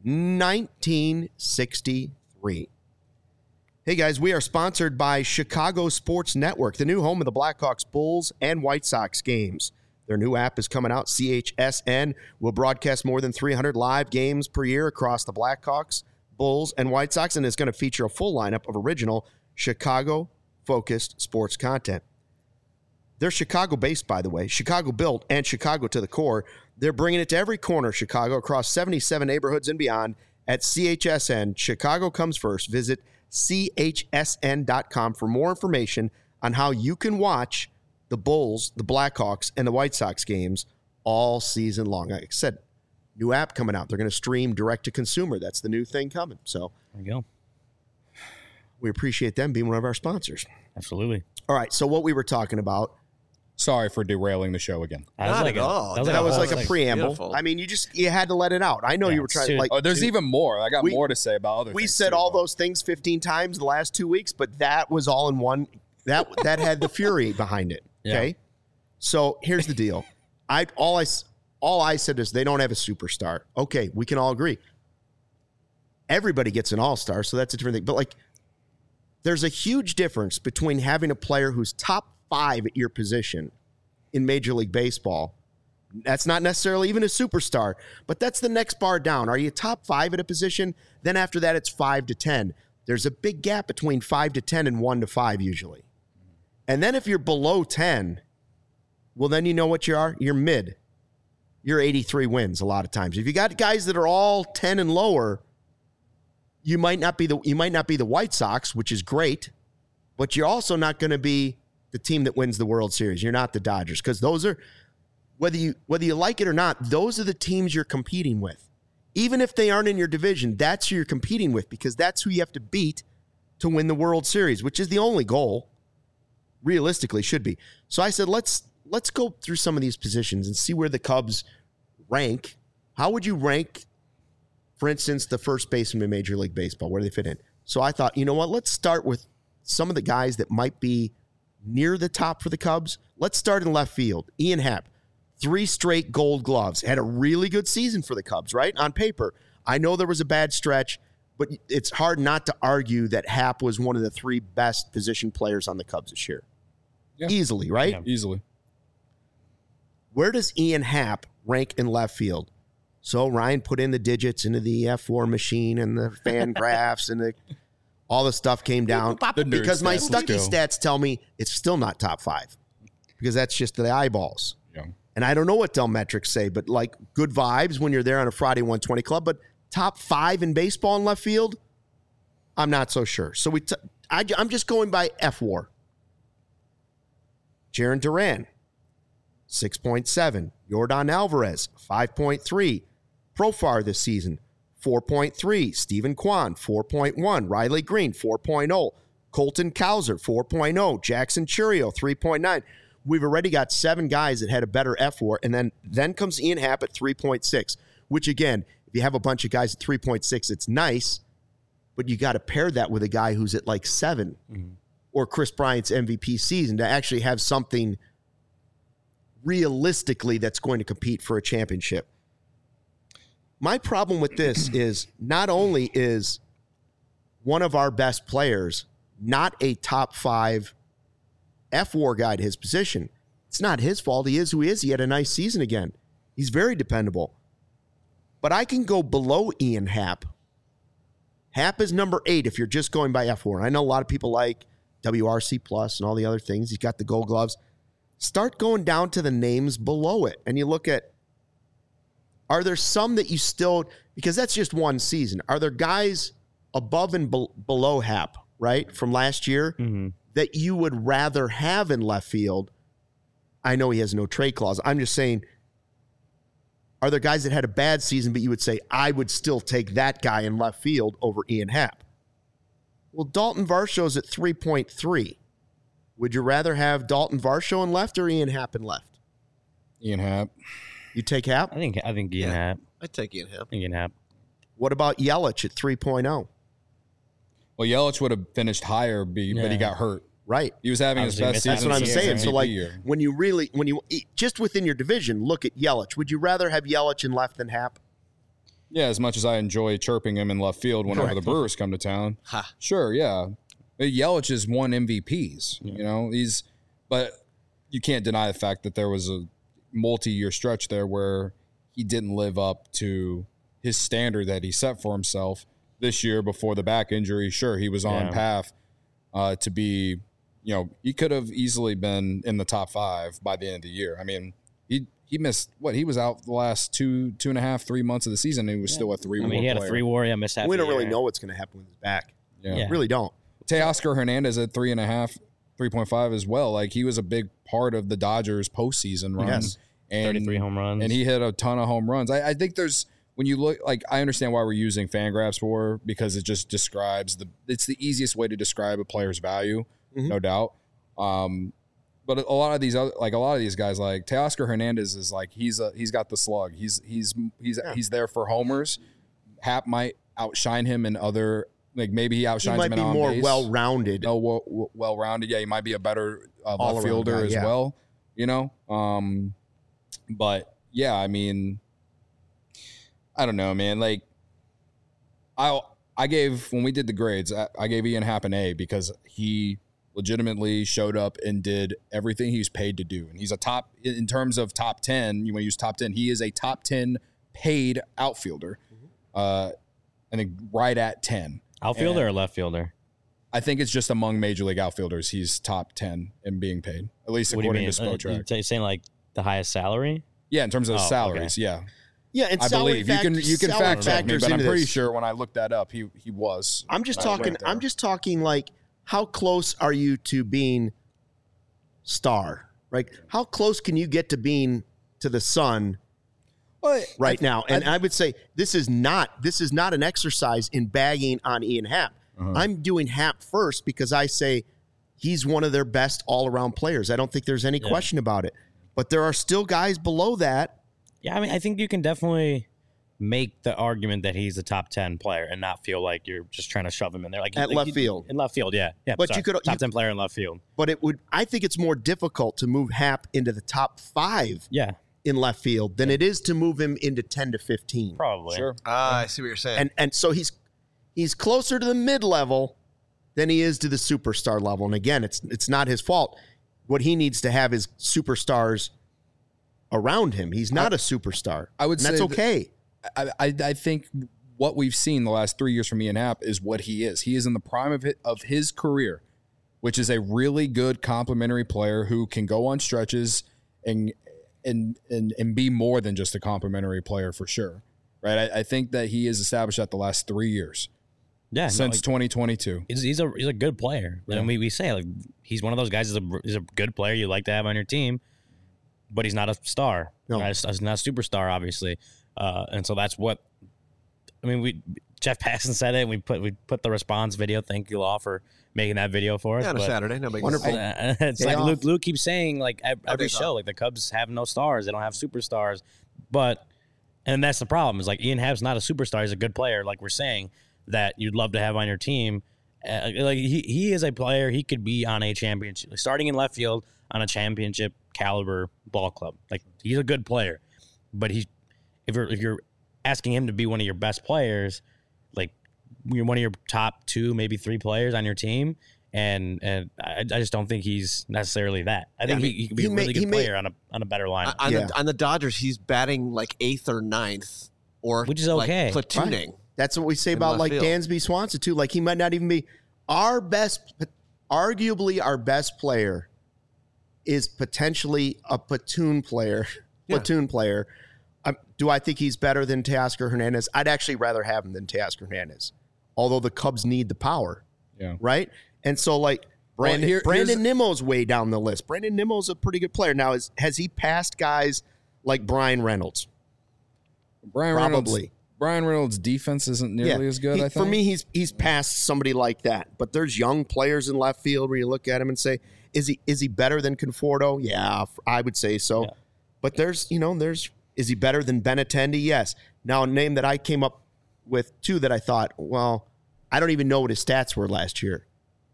nineteen sixty-three. Hey guys, we are sponsored by Chicago Sports Network, the new home of the Blackhawks, Bulls, and White Sox games. Their new app is coming out. C H S N will broadcast more than three hundred live games per year across the Blackhawks, Bulls, and White Sox, and is going to feature a full lineup of original Chicago-focused sports content. They're Chicago-based, by the way, Chicago-built and Chicago to the core. They're bringing it to every corner of Chicago, across seventy-seven neighborhoods and beyond. At C H S N, Chicago comes first. Visit C H S N dot com for more information on how you can watch the Bulls, the Blackhawks, and the White Sox games all season long. Like I said, new app coming out. They're going to stream direct to consumer. That's the new thing coming. So There you go. we appreciate them being one of our sponsors. Absolutely. All right, so what we were talking about, Sorry for derailing the show again. That was Not like at a, all. That was like that a, was whole like a thing. preamble. Beautiful. I mean, you just you had to let it out. I know Yeah, you were trying dude. like Oh, there's to- even more. I got we- more to say about other we things. said too, all though. those things fifteen times the last two weeks, but that was all in one. That that had the fury behind it. Okay, Yeah. so here's the deal. I all I s- all I said is they don't have a superstar. Okay, we can all agree. Everybody gets an all-star, so that's a different thing. But like, there's a huge difference between having a player who's top five at your position in Major League Baseball. That's not necessarily even a superstar, but that's the next bar down. Are you top five at a position? Then after that, it's five to ten. There's a big gap between five to ten and one to five usually. And then if you're below ten, well, then you know what you are. You're mid. You're eighty-three wins a lot of times. If you got guys that are all ten and lower, you might not be the you might not be the White Sox, which is great, but you're also not going to be the team that wins the World Series. You're not the Dodgers, because those are, whether you whether you like it or not, those are the teams you're competing with. Even if they aren't in your division, that's who you're competing with, because that's who you have to beat to win the World Series, which is the only goal, realistically should be. So I said, let's let's go through some of these positions and see where the Cubs rank. How would you rank, for instance, the first baseman in Major League Baseball? Where do they fit in? So I thought, you know what? Let's start with some of the guys that might be near the top for the Cubs. Let's start in left field. Ian Happ, three straight Gold Gloves. Had a really good season for the Cubs, right? On paper. I know there was a bad stretch, but it's hard not to argue that Happ was one of the three best position players on the Cubs this year. Yeah. Easily, right? Yeah. Easily. Where does Ian Happ rank in left field? So Ryan put in the digits into the F four machine and the fan graphs and the all the stuff came down. The nerd Because my stats, let's Stucky go. stats tell me it's still not top five, because that's just the eyeballs. Yeah. And I don't know what Dell metrics say, but like good vibes when you're there on a Friday one twenty club. But top five in baseball in left field, I'm not so sure. So we, t- I, I'm just going by F WAR. Jaron Duran, six point seven. Yordan Alvarez, five point three. Profar this season, four point three. Stephen Kwan, four point one. Riley Green, four point oh. Colton Cowser, four point oh. Jackson Churio, three point nine. We've already got seven guys that had a better F WAR, and then, then comes Ian Happ at three point six, which, again, if you have a bunch of guys at three point six, it's nice, but you got to pair that with a guy who's at like seven, Mm-hmm. or Chris Bryant's M V P season to actually have something realistically that's going to compete for a championship. My problem with this is not only is one of our best players not a top five F W A R guy to his position. It's not his fault. He is who he is. He had a nice season again. He's very dependable. But I can go below Ian Happ. Happ is number eight if you're just going by F W A R. I know a lot of people like W R C Plus and all the other things. He's got the gold gloves. Start going down to the names below it. And you look at, are there some that you still, because that's just one season. Are there guys above and be, below Happ, right, from last year mm-hmm. that you would rather have in left field? I know he has no trade clause. I'm just saying, are there guys that had a bad season, but you would say, I would still take that guy in left field over Ian Happ? Well, Dalton Varsho's at three point three. Would you rather have Dalton Varsho in left or Ian Happ in left? Ian Happ. You take Happ? I think I think Ian Yeah. Happ. I'd take Ian Happ. Ian Happ. What about Yelich at three point oh? Well, Yelich would have finished higher, be, but he Yeah. got hurt. Right. He was having his Obviously, best missed season. That's what I'm Year, saying. right? So, like, year. when you really, when you, just within your division, look at Yelich. Would you rather have Yelich in left than Happ? Yeah, as much as I enjoy chirping him in left field whenever Correct. the Brewers come to town. Ha. Sure, yeah. But Yelich has won M V Ps, Yeah. you know. He's, but you can't deny the fact that there was a multi-year stretch there where he didn't live up to his standard that he set for himself this year before the back injury. Sure, he was on Yeah. path uh, to be, you know, he could have easily been in the top five by the end of the year. I mean, he he missed what he was out the last two two and a half three months of the season. And he was still a three. I mean, he had a three war, yeah, missed half We the don't really year. know what's going to happen with his back. Yeah. Yeah. Really don't. Teoscar Hernandez at three and a half, three point five as well. Like he was a big part of the Dodgers postseason run. Yes. And, thirty-three home runs. and he hit a ton of home runs. I, I think there's when you look like I understand why we're using Fangraphs for because it just describes the it's the easiest way to describe a player's value, Mhm. no doubt. Um, but a lot of these other like a lot of these guys like Teoscar Hernandez is like he's a he's got the slug. He's he's he's Yeah. he's there for homers. Hap might outshine him in other like maybe he He outshines might him be in on more base. well-rounded. No, well, well rounded. Yeah, he might be a better uh, All-around left fielder guy, as yeah. well. You know, um, but yeah, I mean, I don't know, man. Like, I I gave when we did the grades, I, I gave Ian Happ an A because he legitimately showed up and did everything he was paid to do, and he's a top in in terms of top ten. You want to use top ten? He is a top ten paid outfielder. Uh, I think right at ten. Outfielder And- or left fielder? I think it's just among major league outfielders. He's top ten in being paid, at least What do you according mean? to Uh, Spotrac. you saying like the highest salary? Yeah, in terms of Oh, okay. salaries, yeah, Yeah, and I salary believe you can fact- you can salary fact check me, factors but I'm into pretty this. sure when I looked that up, he he was. I'm just uh, talking. right there. I'm just talking like how close are you to being star? Right? How close can you get to being to the sun Well, right I- now? And I- I, would say this is not this is not an exercise in bagging on Ian Happ. Uh-huh. I'm doing Happ first because I say he's one of their best all around players. I don't think there's any Yeah. question about it. But there are still guys below that. Yeah, I mean, I think you can definitely make the argument that he's a top ten player and not feel like you're just trying to shove him in there. Like At like left you- field. In left field, yeah, yeah. But sorry. you could- top you- ten player in left field. But it would. I think it's more difficult to move Happ into the top five Yeah, in left field than it is to move him into ten to fifteen. probably. sure. Ah, I see what you're saying. And and so he's he's closer to the mid level than he is to the superstar level. And again, it's it's not his fault. What he needs to have is superstars around him. He's not a superstar. I would and that's say that- okay. I, I I think what we've seen the last three years from Ian Happ is what he is. He is in the prime of his, of his career, which is a really good complementary player who can go on stretches and and and and be more than just a complementary player for sure. Right? I, I think that he is established at the last three years Yeah, no, since like, twenty twenty-two. he's, he's a he's a good player. Yeah. And we, we say like he's one of those guys. He's a he's a good player you like to have on your team, but he's not a star. No. Right? He's not a superstar, obviously. Uh, and so that's what I mean. We Jeff Passan said it. And we put we put the response video. Thank you all for making that video for us. yeah, on a but- Saturday, no big Wonderful. deal. Uh, it's Day like off. Luke, Luke keeps saying, like ev- every days show, off. like the Cubs have no stars, they don't have superstars, but and that's the problem. Is like Ian Happ's not a superstar; he's a good player, like we're saying that you'd love to have on your team. Uh, like he he is a player; he could be on a championship, starting in left field on a championship caliber ball club. Like he's a good player, but he's if you're if you're asking him to be one of your best players, like you're one of your top two, maybe three players on your team. And and I, I just don't think he's necessarily that. I think Yeah, he, he could be he a may- really he good may- player on a on a better lineup. on, Yeah. the, on the Dodgers, he's batting like eighth or ninth, or Which is like, okay. platooning. That's what we say In about left like field. Dansby Swanson too. Like he might not even be our best, arguably our best player is potentially a platoon player. Yeah. Platoon player. Um, do I think he's better than Teoscar Hernandez? I'd actually rather have him than Teoscar Hernandez, although the Cubs need the power, Yeah. right? And so like Brandon Well, here- Brandon here's- Nimmo's way down the list. Brandon Nimmo's a pretty good player. Now, is, has he passed guys like Brian Reynolds? Brian Reynolds, Probably. Brian Reynolds' defense isn't nearly as good. He- I think For me, he's he's past somebody like that. But there's young players in left field where you look at him and say, is he is he better than Conforto? Yeah, f- I would say so. Yeah. But there's you know there's is he better than Benintendi? Yes. Now a name that I came up with too that I thought, well, I don't even know what his stats were last year.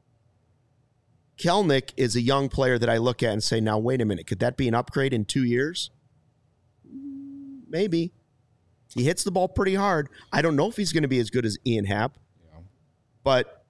Kelnick is a young player that I look at and say, now wait a minute, could that be an upgrade in two years? Maybe. He hits the ball pretty hard. I don't know if he's going to be as good as Ian Happ. But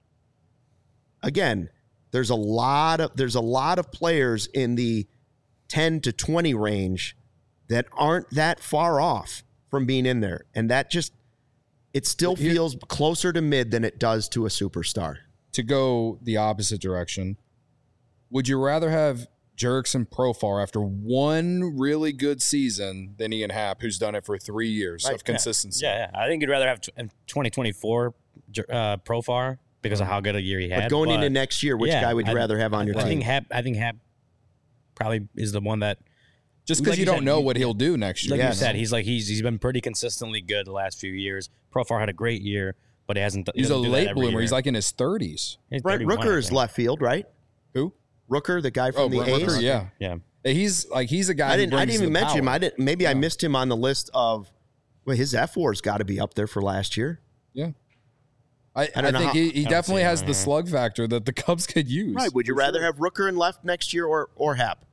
again, there's a lot of there's a lot of players in the ten to twenty range that aren't that far off from being in there. And that just it still Here- feels closer to mid than it does to a superstar. To go the opposite direction, would you rather have Jurickson Profar after one really good season than Ian Happ, who's done it for three years Right, of consistency? Yeah, yeah. I think you'd rather have tw- in twenty twenty-four uh, Profar because of how good a year he had. But going into next year, which yeah, guy would you I- rather have on your I team? think Hap. I think Hap probably is the one that, Just because Like you you don't said, know you- what he'll do next year. like Yeah. you said, he's like he's he's been pretty consistently good the last few years. Profar had a great year, but he hasn't. he He's a doesn't do that late every bloomer. year. He's like in his thirties. He's Brent thirty-one, I Rooker is think. left field, right? Who? Rooker, the guy Oh, from the Brent A's. Rooker, yeah. Yeah, He's like he's a guy. I who didn't. I brings didn't even the mention him. power. I didn't. Maybe I Yeah. missed him on the list of. Well, his F WAR's got to be up there for last year. Yeah. I, I I, don't know think how- he, I he don't definitely see him has right the here. slug factor that the Cubs could use. Right. Would you For rather sure. have Rooker in left next year or or Happ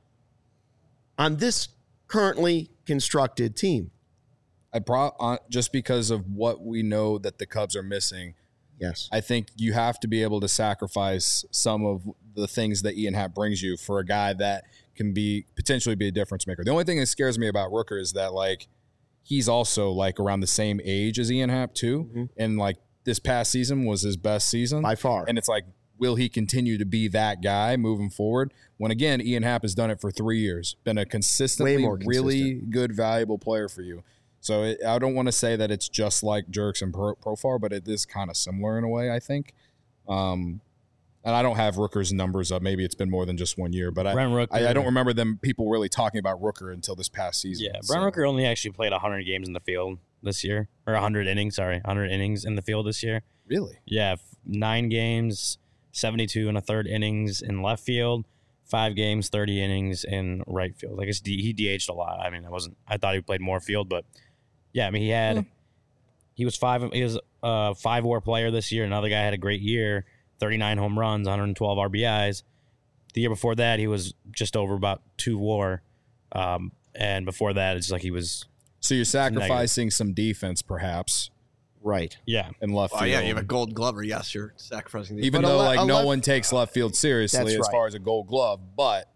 on this currently constructed team? I brought on just because of what we know that the Cubs are missing. Yes. I think you have to be able to sacrifice some of the things that Ian Happ brings you for a guy that can be potentially be a difference maker. The only thing that scares me about Rooker is that like he's also like around the same age as Ian Happ too, Mhm. and like this past season was his best season By far. And it's like, will he continue to be that guy moving forward? When again, Ian Happ has done it for three years, been a consistently Way more really good, valuable player for you. So it, I don't want to say that it's just like Jerks and Pro, Profar, but it is kind of similar in a way, I think. Um, and I don't have Rooker's numbers up. Maybe it's been more than just one year, but I, Brent Rooker. I, I don't remember them people really talking about Rooker until this past season. Yeah, So- Brent Rooker only actually played one hundred games in the field this year, or one hundred innings. Sorry, one hundred innings in the field this year. Really? Yeah, f- nine games, seventy-two and a third innings in left field, five games, thirty innings in right field. I guess D, he D H'd a lot. I mean, I wasn't. I thought he played more field, but yeah, I mean, he had. Yeah. He was five. He was a five WAR player this year. Another guy had a great year, thirty-nine home runs, one hundred twelve R B Is. The year before that, he was just over about two WAR, um, and before that, it's like he was. So you're sacrificing some defense, perhaps, Right. Yeah, in left Oh field. yeah, you have a Gold Glover. Yes, you're sacrificing the. Even But a though le- like a no left- one takes left field seriously That's as right. far as a Gold Glove, but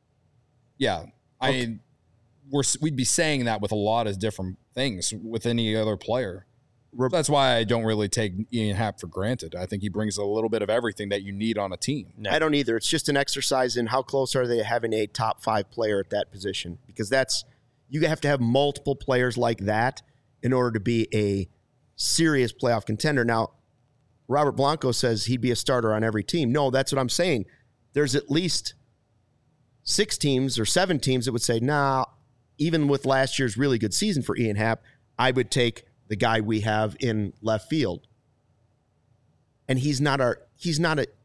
yeah, I Okay. mean, we're we'd be saying that with a lot of different things with any other player. Re- That's why I don't really take Ian Happ for granted. I think he brings a little bit of everything that you need on a team. no. I don't either. It's just an exercise in how close are they to having a top five player at that position, because that's you have to have multiple players like that in order to be a serious playoff contender. Now, Robert Blanco says he'd be a starter on every team. No, that's what I'm saying. There's at least six teams or seven teams that would say, nah, even with last year's really good season for Ian Happ, I would take the guy we have in left field. And he's not our he's not a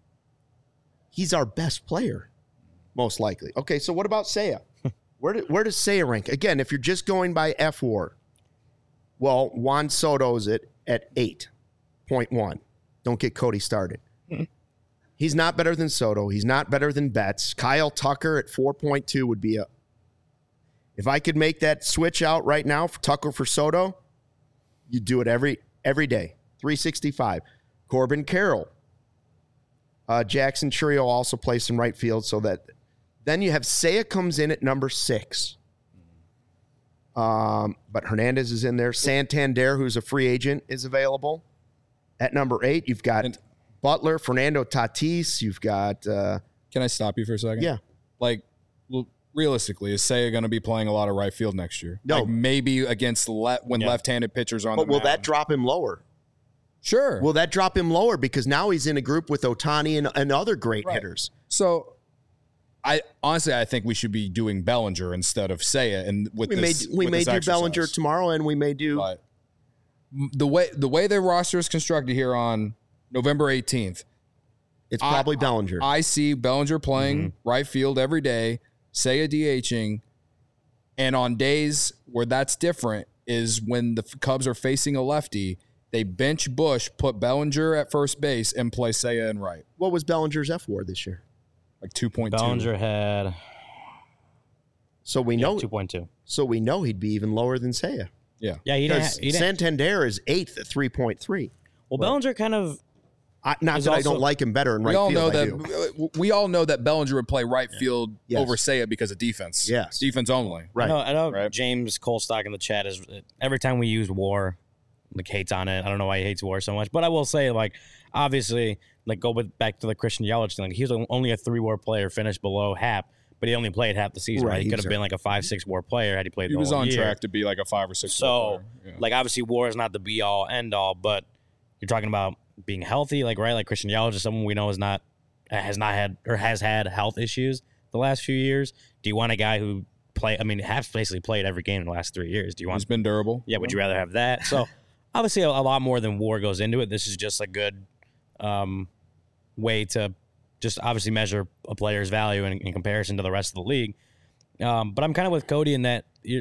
he's our best player, most likely. Okay, so what about Seiya? Where do, where does Seiya rank? Again, if you're just going by F WAR, well, Juan Soto's at at eight point one. Don't get Cody started. He's not better than Soto. He's not better than Betts. Kyle Tucker at four point two would be a. If I could make that switch out right now for Tucker for Soto, you do it every every day. three sixty-five. Corbin Carroll. Uh, Jackson Churio also plays in right field, so that then you have Seiya comes in at number six. Um, but Hernandez is in there. Santander, who's a free agent, is available. At number eight, you've got And- Butler, Fernando Tatis. You've got uh, Can I stop you for a second? yeah. Like, well, realistically, is Seiya going to be playing a lot of right field next year? No. Like maybe against le- when Yeah. left-handed pitchers are on But the will that mound. drop him lower? Sure. Will that drop him lower because now he's in a group with Ohtani and, and other great Right. hitters? So, I honestly, I think we should be doing Bellinger instead of Seiya, and with We this, may we with may this do exercise. Bellinger tomorrow, and we may do But the way the way their roster is constructed here on November eighteenth, it's I- probably Bellinger. I see Bellinger playing right field every day, Seiya DHing, and on days where that's different is when the Cubs are facing a lefty, they bench Bush, put Bellinger at first base, and play Seiya in right, what was Bellinger's F WAR this year? like two point two. Bellinger had So we know two point two. so we know he'd be even lower than Seiya. Yeah, Yeah, he didn't. Because ha- He didn't Santander is eighth at three point three. well, Bellinger kind of I, not There's that I also- don't like him better in right we all field. know I do. that. We all know that Bellinger would play right field Yes. over Seiya because of defense. Yes. defense only. Right. I know, I know Right. James Colstock in the chat is every time we use WAR, like hates on it. I don't know why he hates WAR so much, but I will say, like, obviously, like go with back to the Christian Yelich thing. Like, he was only a three WAR player, finished below half, but he only played half the season. Right, Right, he he could was have a- been like a five six WAR player had he played. He the was whole on year. track to be like a five or six. So, player. Yeah. like, obviously, WAR is not the be all end all, but you're talking about being healthy, like right, like Christian Yelich is someone we know is not has not had or has had health issues the last few years. Do you want a guy who play? I mean, has basically played every game in the last three years. Do you want? He's been durable. Yeah, would you rather have that? So, obviously, a, a lot more than WAR goes into it. This is just a good um, way to just obviously measure a player's value in, in comparison to the rest of the league. Um, but I'm kind of with Cody in that you're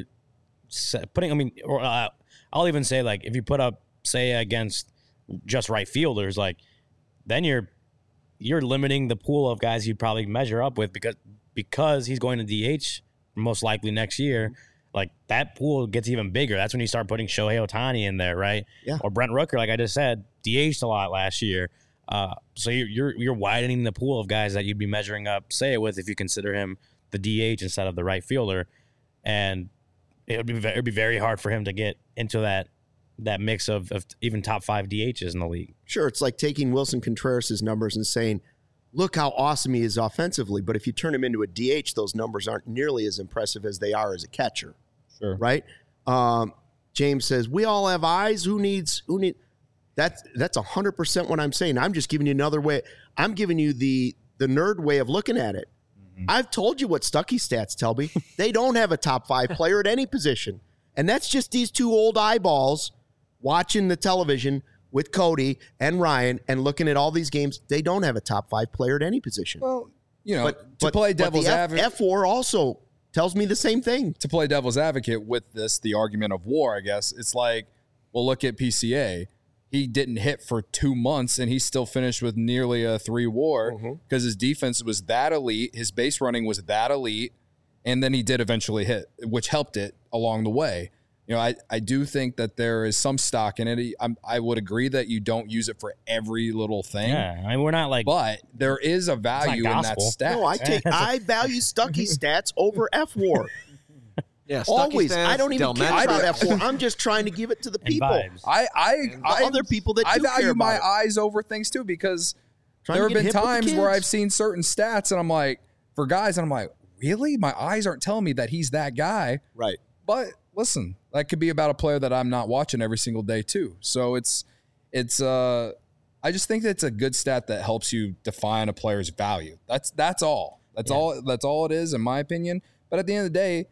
s- putting. I mean, or uh, I'll even say like if you put up say against just right fielders, like then you're you're limiting the pool of guys you'd probably measure up with because because he's going to D H most likely next year. Like that pool gets even bigger. That's when you start putting Shohei Ohtani in there, right? Yeah. Or Brent Rooker, like I just said, D H'd a lot last year. Uh, so you're, you're you're widening the pool of guys that you'd be measuring up, say it with, if you consider him the D H instead of the right fielder, and it would be ve- it'd be very hard for him to get into that that mix of, of even top five D Hs in the league. Sure, it's like taking Wilson Contreras' numbers and saying, look how awesome he is offensively. But if you turn him into a D H, those numbers aren't nearly as impressive as they are as a catcher. Sure. Right? Um, James says, we all have eyes. Who needs, who need, that's, that's one hundred percent what I'm saying. I'm just giving you another way. I'm giving you the, the nerd way of looking at it. Mm-hmm. I've told you what Stuckey stats tell me. They don't have a top five player at any position. And that's just these two old eyeballs watching the television with Cody and Ryan and looking at all these games. They don't have a top five player at any position. Well, you know, but to but, play but devil's the F, advocate, F four also tells me the same thing. to play devil's advocate with this, the argument of WAR, I guess it's like, well, look at P C A. He didn't hit for two months, and he still finished with nearly a three WAR because his defense was that elite, his base running was that elite, and then he did eventually hit, which helped it along the way. You know, I, I do think that there is some stock in it. I'm, I would agree that you don't use it for every little thing, Yeah, I mean we're not like but there is a value in that gospel. stat. No, I take I value Stuckey stats over F WAR. Yeah, Stuckey Always. stats, I don't even care Delmenico- about F four. I'm just trying to give it to the and people. vibes. I I, The I other people that I do care value about my it. eyes over things too because Trying there to have get been hip with the times where kids. I've seen certain stats and I'm like, for guys, and I'm like, really? My eyes aren't telling me that he's that guy. Right. But listen, that could be about a player that I'm not watching every single day too. So it's it's uh I just think that it's a good stat that helps you define a player's value. That's that's all. That's Yeah. all that's all it is in my opinion. But at the end of the day,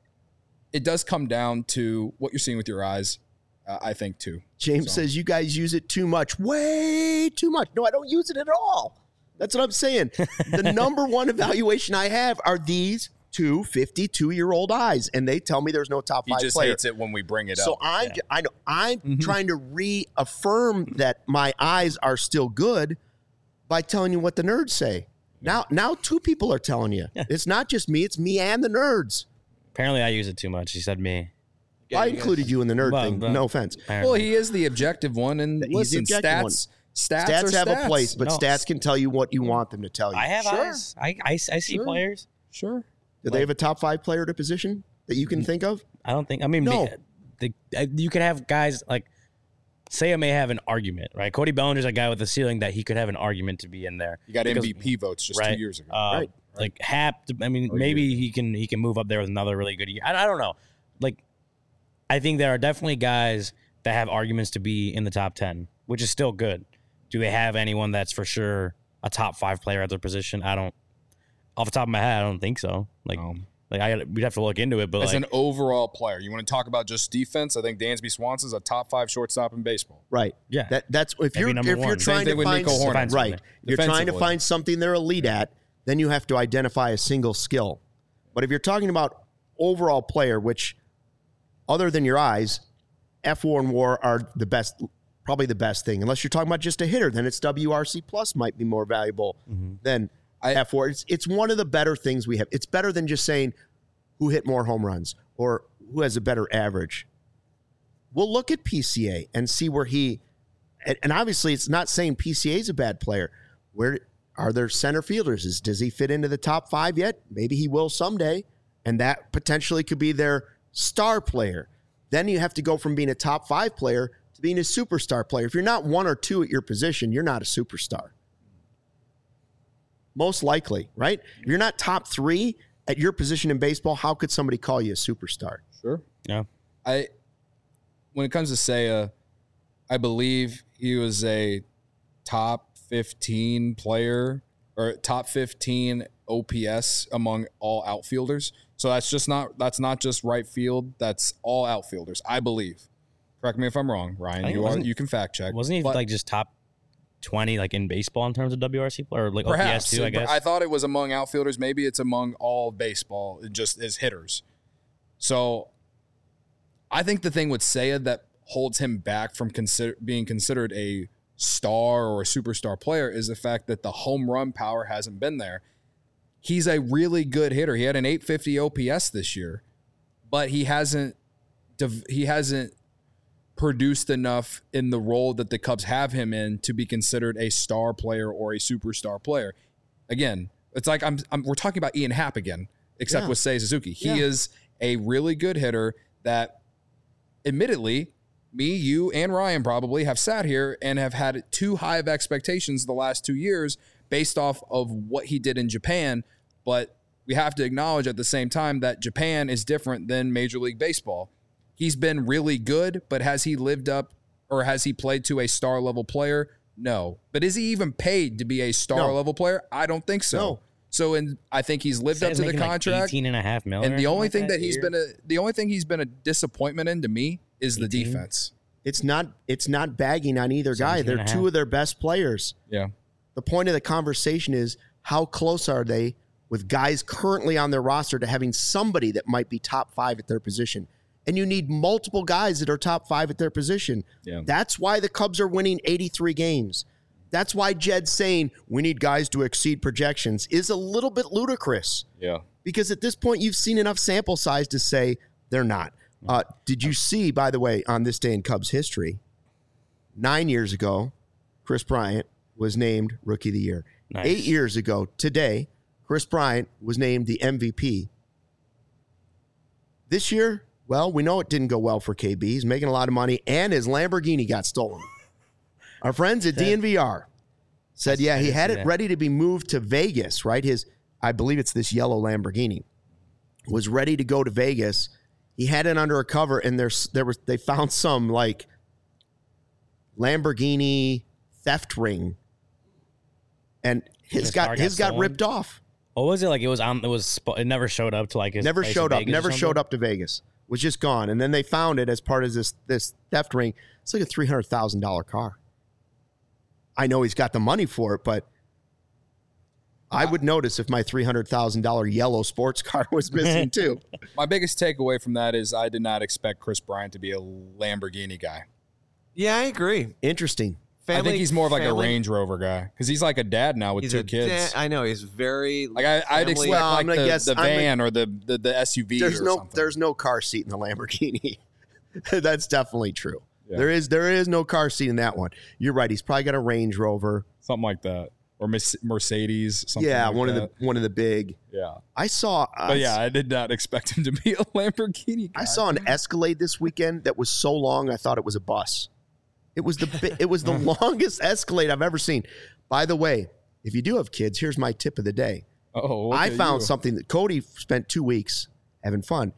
it does come down to what you're seeing with your eyes, uh, I think too. James So- says you guys use it too much. Way too much. No, I don't use it at all. That's what I'm saying. The number one evaluation I have are these two fifty-two-year-old eyes, and they tell me there's no top He five just player. hates it when we bring it So up. I'm, Yeah. j- I know I'm Mhm. trying to reaffirm that my eyes are still good, by telling you what the nerds say. Now, now two people are telling you. Yeah. It's not just me; it's me and the nerds. Apparently, I use it too much. He said me. Yeah, I you included guys- you in the nerd Well, thing. but- No offense. Apparently. Well, he is the objective one, and He's the listen, objective stats, one. stats, Stats are have stats. a place, but No. stats can tell you what you want them to tell you. I have Sure. eyes. I, I, I see Sure. players. Sure. Do they have a top five player at a position that you can think of? I don't think. I mean, No. ma- the, uh, you could have guys like Saya may have an argument, right? Cody Bellinger's a guy with a ceiling that he could have an argument to be in there. You got Because- M V P votes just right. two years ago. Uh, Right. Like Hap, I mean, Or maybe he can he can move up there with another really good year. I, I don't know. Like, I think there are definitely guys that have arguments to be in the top ten, which is still good. Do they have anyone that's for sure a top five player at their position? I don't. Off the top of my head, I don't think so. Like, Um, like I gotta, we'd have to look into it. But as like, an overall player, you want to talk about just defense? I think Dansby Swanson's a top five shortstop in baseball. Right. yeah, That that's if Maybe you're number if you're one. Same trying thing to with find Nico Horner. Defensively. right, you're trying to Defensively. find something they're elite at, then you have to identify a single skill. But if you're talking about overall player, which other than your eyes, F one and WAR are the best, probably the best thing. Unless you're talking about just a hitter, then it's W R C plus might be more valuable than I- F four. It's it's one of the better things we have. It's better than just saying who hit more home runs or who has a better average. We'll look at P C A and see where he, and, and obviously it's not saying P C A is a bad player. Where are there center fielders? Is, does he fit into the top five yet? Maybe he will someday, and that potentially could be their star player. Then you have to go from being a top five player to being a superstar player. If you're not one or two at your position, you're not a superstar. Most likely, right? If you're not top three at your position in baseball, how could somebody call you a superstar? Sure. yeah. I when it comes to Saya, I believe he was a top fifteen player or top fifteen O P S among all outfielders. So that's just not that's not just right field, that's all outfielders, I believe. Correct me if I'm wrong, I Ryan. think You it are wasn't- you can fact check. Wasn't he But like just top twenty like in baseball in terms of W R C or like perhaps O P S too? I but guess. I thought it was among outfielders. Maybe it's among all baseball, just as hitters. So I think the thing with Saya that holds him back from consider, being considered a star or a superstar player is the fact that the home run power hasn't been there. He's a really good hitter. He had an eight fifty O P S this year, but he hasn't dev- he hasn't produced enough in the role that the Cubs have him in to be considered a star player or a superstar player. Again, it's like I'm, I'm we're talking about Ian Happ again, except Yeah. with Seiya Suzuki. He Yeah. is a really good hitter that, admittedly, me, you, and Ryan probably have sat here and have had too high of expectations the last two years based off of what he did in Japan. But we have to acknowledge at the same time that Japan is different than Major League Baseball. He's been really good, but has he lived up or has he played to a star level player? No. But is he even paid to be a star No. level player? I don't think so. No. So in, I think he's lived Said up he's to the making, like, contract. eighteen and a half million. And the or only something thing like that he's year. been a the only thing he's been a disappointment in to me is the eighteen? defense. It's not it's not bagging on either guy. seventeen They're and a two half. of their best players. Yeah. The point of the conversation is how close are they with guys currently on their roster to having somebody that might be top five at their position? And you need multiple guys that are top five at their position. Yeah. That's why the Cubs are winning eighty-three games. That's why Jed's saying we need guys to exceed projections is a little bit ludicrous Yeah. because at this point you've seen enough sample size to say they're not. Uh, did you see, by the way, on this day in Cubs history, nine years ago, Chris Bryant was named Rookie of the Year. Nice. Eight years ago today, Chris Bryant was named the M V P. This year, well, we know it didn't go well for K B. He's making a lot of money, and his Lamborghini got stolen. Our friends at D N V R said, yeah, he had it ready to be moved to Vegas, right? His, I believe it's this yellow Lamborghini, was ready to go to Vegas. He had it under a cover, and there's there was they found some like Lamborghini theft ring, and his His got car got his got stolen? ripped off. What was it like? It was on. It was. sp- It never showed up to like his. Never place in showed up. Vegas or Never showed something? up to Vegas. Was just gone, and then they found it as part of this this theft ring. It's like a three hundred thousand dollar car. I know he's got the money for it, but I would notice if my three hundred thousand dollar yellow sports car was missing too. My biggest takeaway from that is I did not expect Chris Bryant to be a Lamborghini guy. Yeah, I agree. Interesting. Family, I think he's more of like family, a Range Rover guy because he's like a dad now with he's two a kids. da- I know he's very like I, I'd family- expect Well, I'm like gonna the, guess- the I'm van or the, the the S U V. There's or no something. there's no car seat in the Lamborghini. That's definitely true. Yeah. There is there is no car seat in that one. You're right. He's probably got a Range Rover. something like that, or Merce- Mercedes. Something yeah, like one that. of the one of the big. yeah. I saw. Uh, But yeah, I did not expect him to be a Lamborghini guy. I saw an Escalade this weekend that was so long I thought it was a bus. It was the bi- it was the longest Escalade I've ever seen. By the way, if you do have kids, here's my tip of the day. Oh, look I at found you. something that Cody spent two weeks having fun.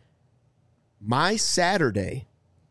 My Saturday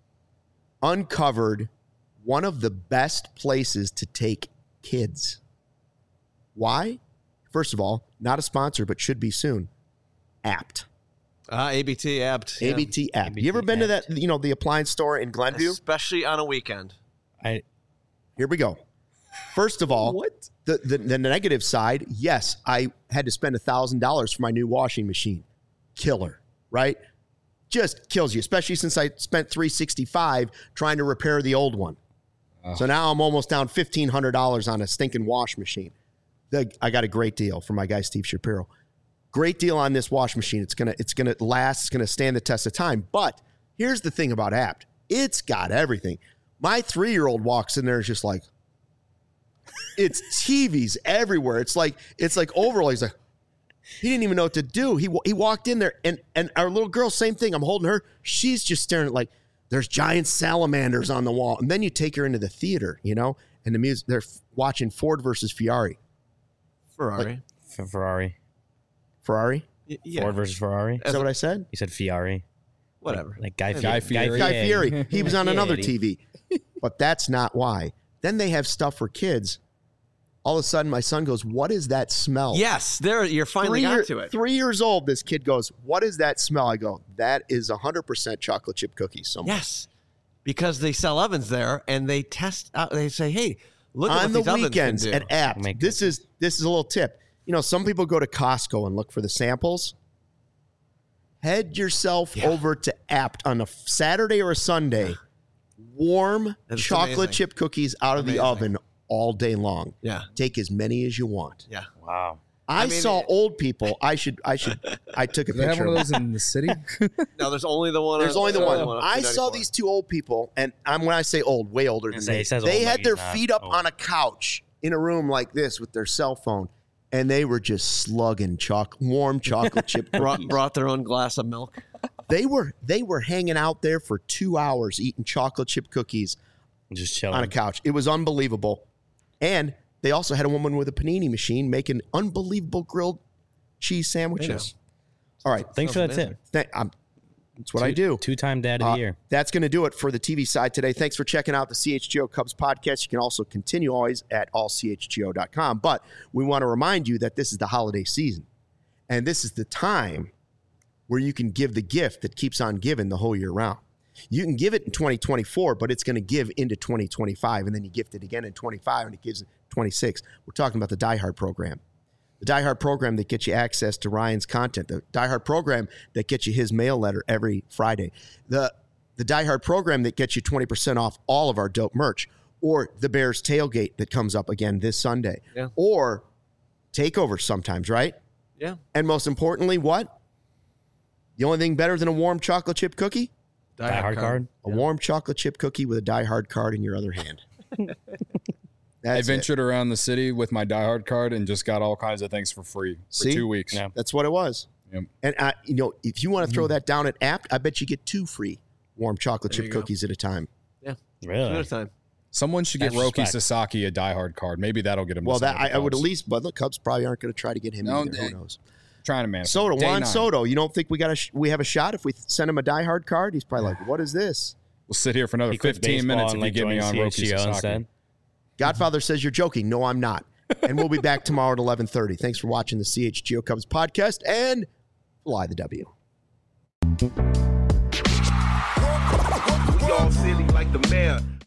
uncovered one of the best places to take kids. Why? First of all, not a sponsor, but should be soon. Apt. Uh, A B T apt. yeah. A B T Apt. A B You ever T been to Apt. that, you know, the appliance store in Glenview? Especially on a weekend. I Here we go. First of all, What? The, the the negative side, yes, I had to spend a thousand dollars for my new washing machine. Killer, right? Just kills you, especially since I spent three sixty-five trying to repair the old one. Oh. So now I'm almost down fifteen hundred dollars on a stinking wash machine. The, I got a great deal from my guy Steve Shapiro. Great deal on this wash machine. It's gonna it's gonna last. It's gonna stand the test of time. But here's the thing about Apt. It's got everything. My three-year-old walks in there and is just like, it's T Vs everywhere. It's like it's like overall. He's like, he didn't even know what to do. He he walked in there and and our little girl, same thing. I'm holding her. She's just staring at like there's giant salamanders on the wall. And then you take her into the theater, you know, and the music. They're f- watching Ford versus Ferrari. Ferrari. F- Ferrari. Ferrari. Y- yeah. Ford versus Ferrari. Is that what I said? You said Ferrari. Whatever. Like Guy, Guy Fieri. Fieri. Guy Fieri. He was on another Fieri. T V. But that's not why. Then they have stuff for kids. All of a sudden, my son goes, "What is that smell?" Yes, there. You're finally three, got year- to it. three years old, this kid goes, "What is that smell?" I go, "That is one hundred percent chocolate chip cookies." Somewhere. Yes, because they sell ovens there, and they test out. They say, "Hey, look at On what the these ovens weekends can do." at Apt. Make This is this is a little tip. You know, some people go to Costco and look for the samples. Head yourself Yeah. over to Apt on a Saturday or a Sunday. Warm That's chocolate amazing. chip cookies out of the Amazing. oven all day long. Yeah, Take as many as you want. yeah. Wow. I, I mean, saw it- old people. I should. I should. I took a Do they have picture. one of of those in the city? No, there's only the one. There's on- only the there's one. on I two saw ninety-four. these two old people, and I'm when I say old, way older than Say- me. he says They old had like their he's not feet up old. on a couch in a room like this with their cell phone, and they were just slugging chocolate, warm chocolate chip Brought, cookies. brought their own glass of milk. They were they were hanging out there for two hours eating chocolate chip cookies Just chilling. on a couch. It was unbelievable, and they also had a woman with a panini machine making unbelievable grilled cheese sandwiches. All right, Thanks for that Sounds tip. Th- I'm, that's what I do. Two-time dad of Uh, the year. That's going to do it for the T V side today. Thanks for checking out the C H G O Cubs podcast. You can also continue always at all c h g o dot com. But we want to remind you that this is the holiday season. And this is the time where you can give the gift that keeps on giving the whole year round. You can give it in twenty twenty-four, but it's going to give into twenty twenty-five. And then you gift it again in twenty-five, and it gives in twenty-six. We're talking about the Die Hard program. The Die Hard program that gets you access to Ryan's content. The Die Hard program that gets you his mail letter every Friday. The the Die Hard program that gets you twenty percent off all of our dope merch. Or the Bears tailgate that comes up again this Sunday. Yeah. Or takeovers sometimes, right? Yeah. And most importantly, what? The only thing better than a warm chocolate chip cookie? Die Hard card. A warm chocolate chip cookie with a Die Hard card in your other hand. I That's it. ventured around the city with my Die Hard card and just got all kinds of things for free for See? two weeks. Yeah. That's what it was. Yep. And I, you know, if you want to throw that down at Apt, I bet you get two free warm chocolate There chip you go. cookies at a time. Two Really? at a time. Someone should get That's Roki respect. Sasaki a Die Hard card. Maybe that'll get him. to Well, sign that with I, I would at Cubs. least, but the Cubs probably aren't going to try to get him No, either. they- Who knows? trying to manage. Soto, Day Juan nine. Soto. You don't think we got a sh- we have a shot if we send him a Die Hard card? He's probably like, "What is this?" We'll sit here for another He quit fifteen baseball minutes if and, you like, get me joined on Roki C H G O Sasaki. instead. Godfather says you're joking. No, I'm not. And we'll be back tomorrow at eleven thirty. Thanks for watching the C H G O Cubs podcast and fly the W. We all silly like the mayor.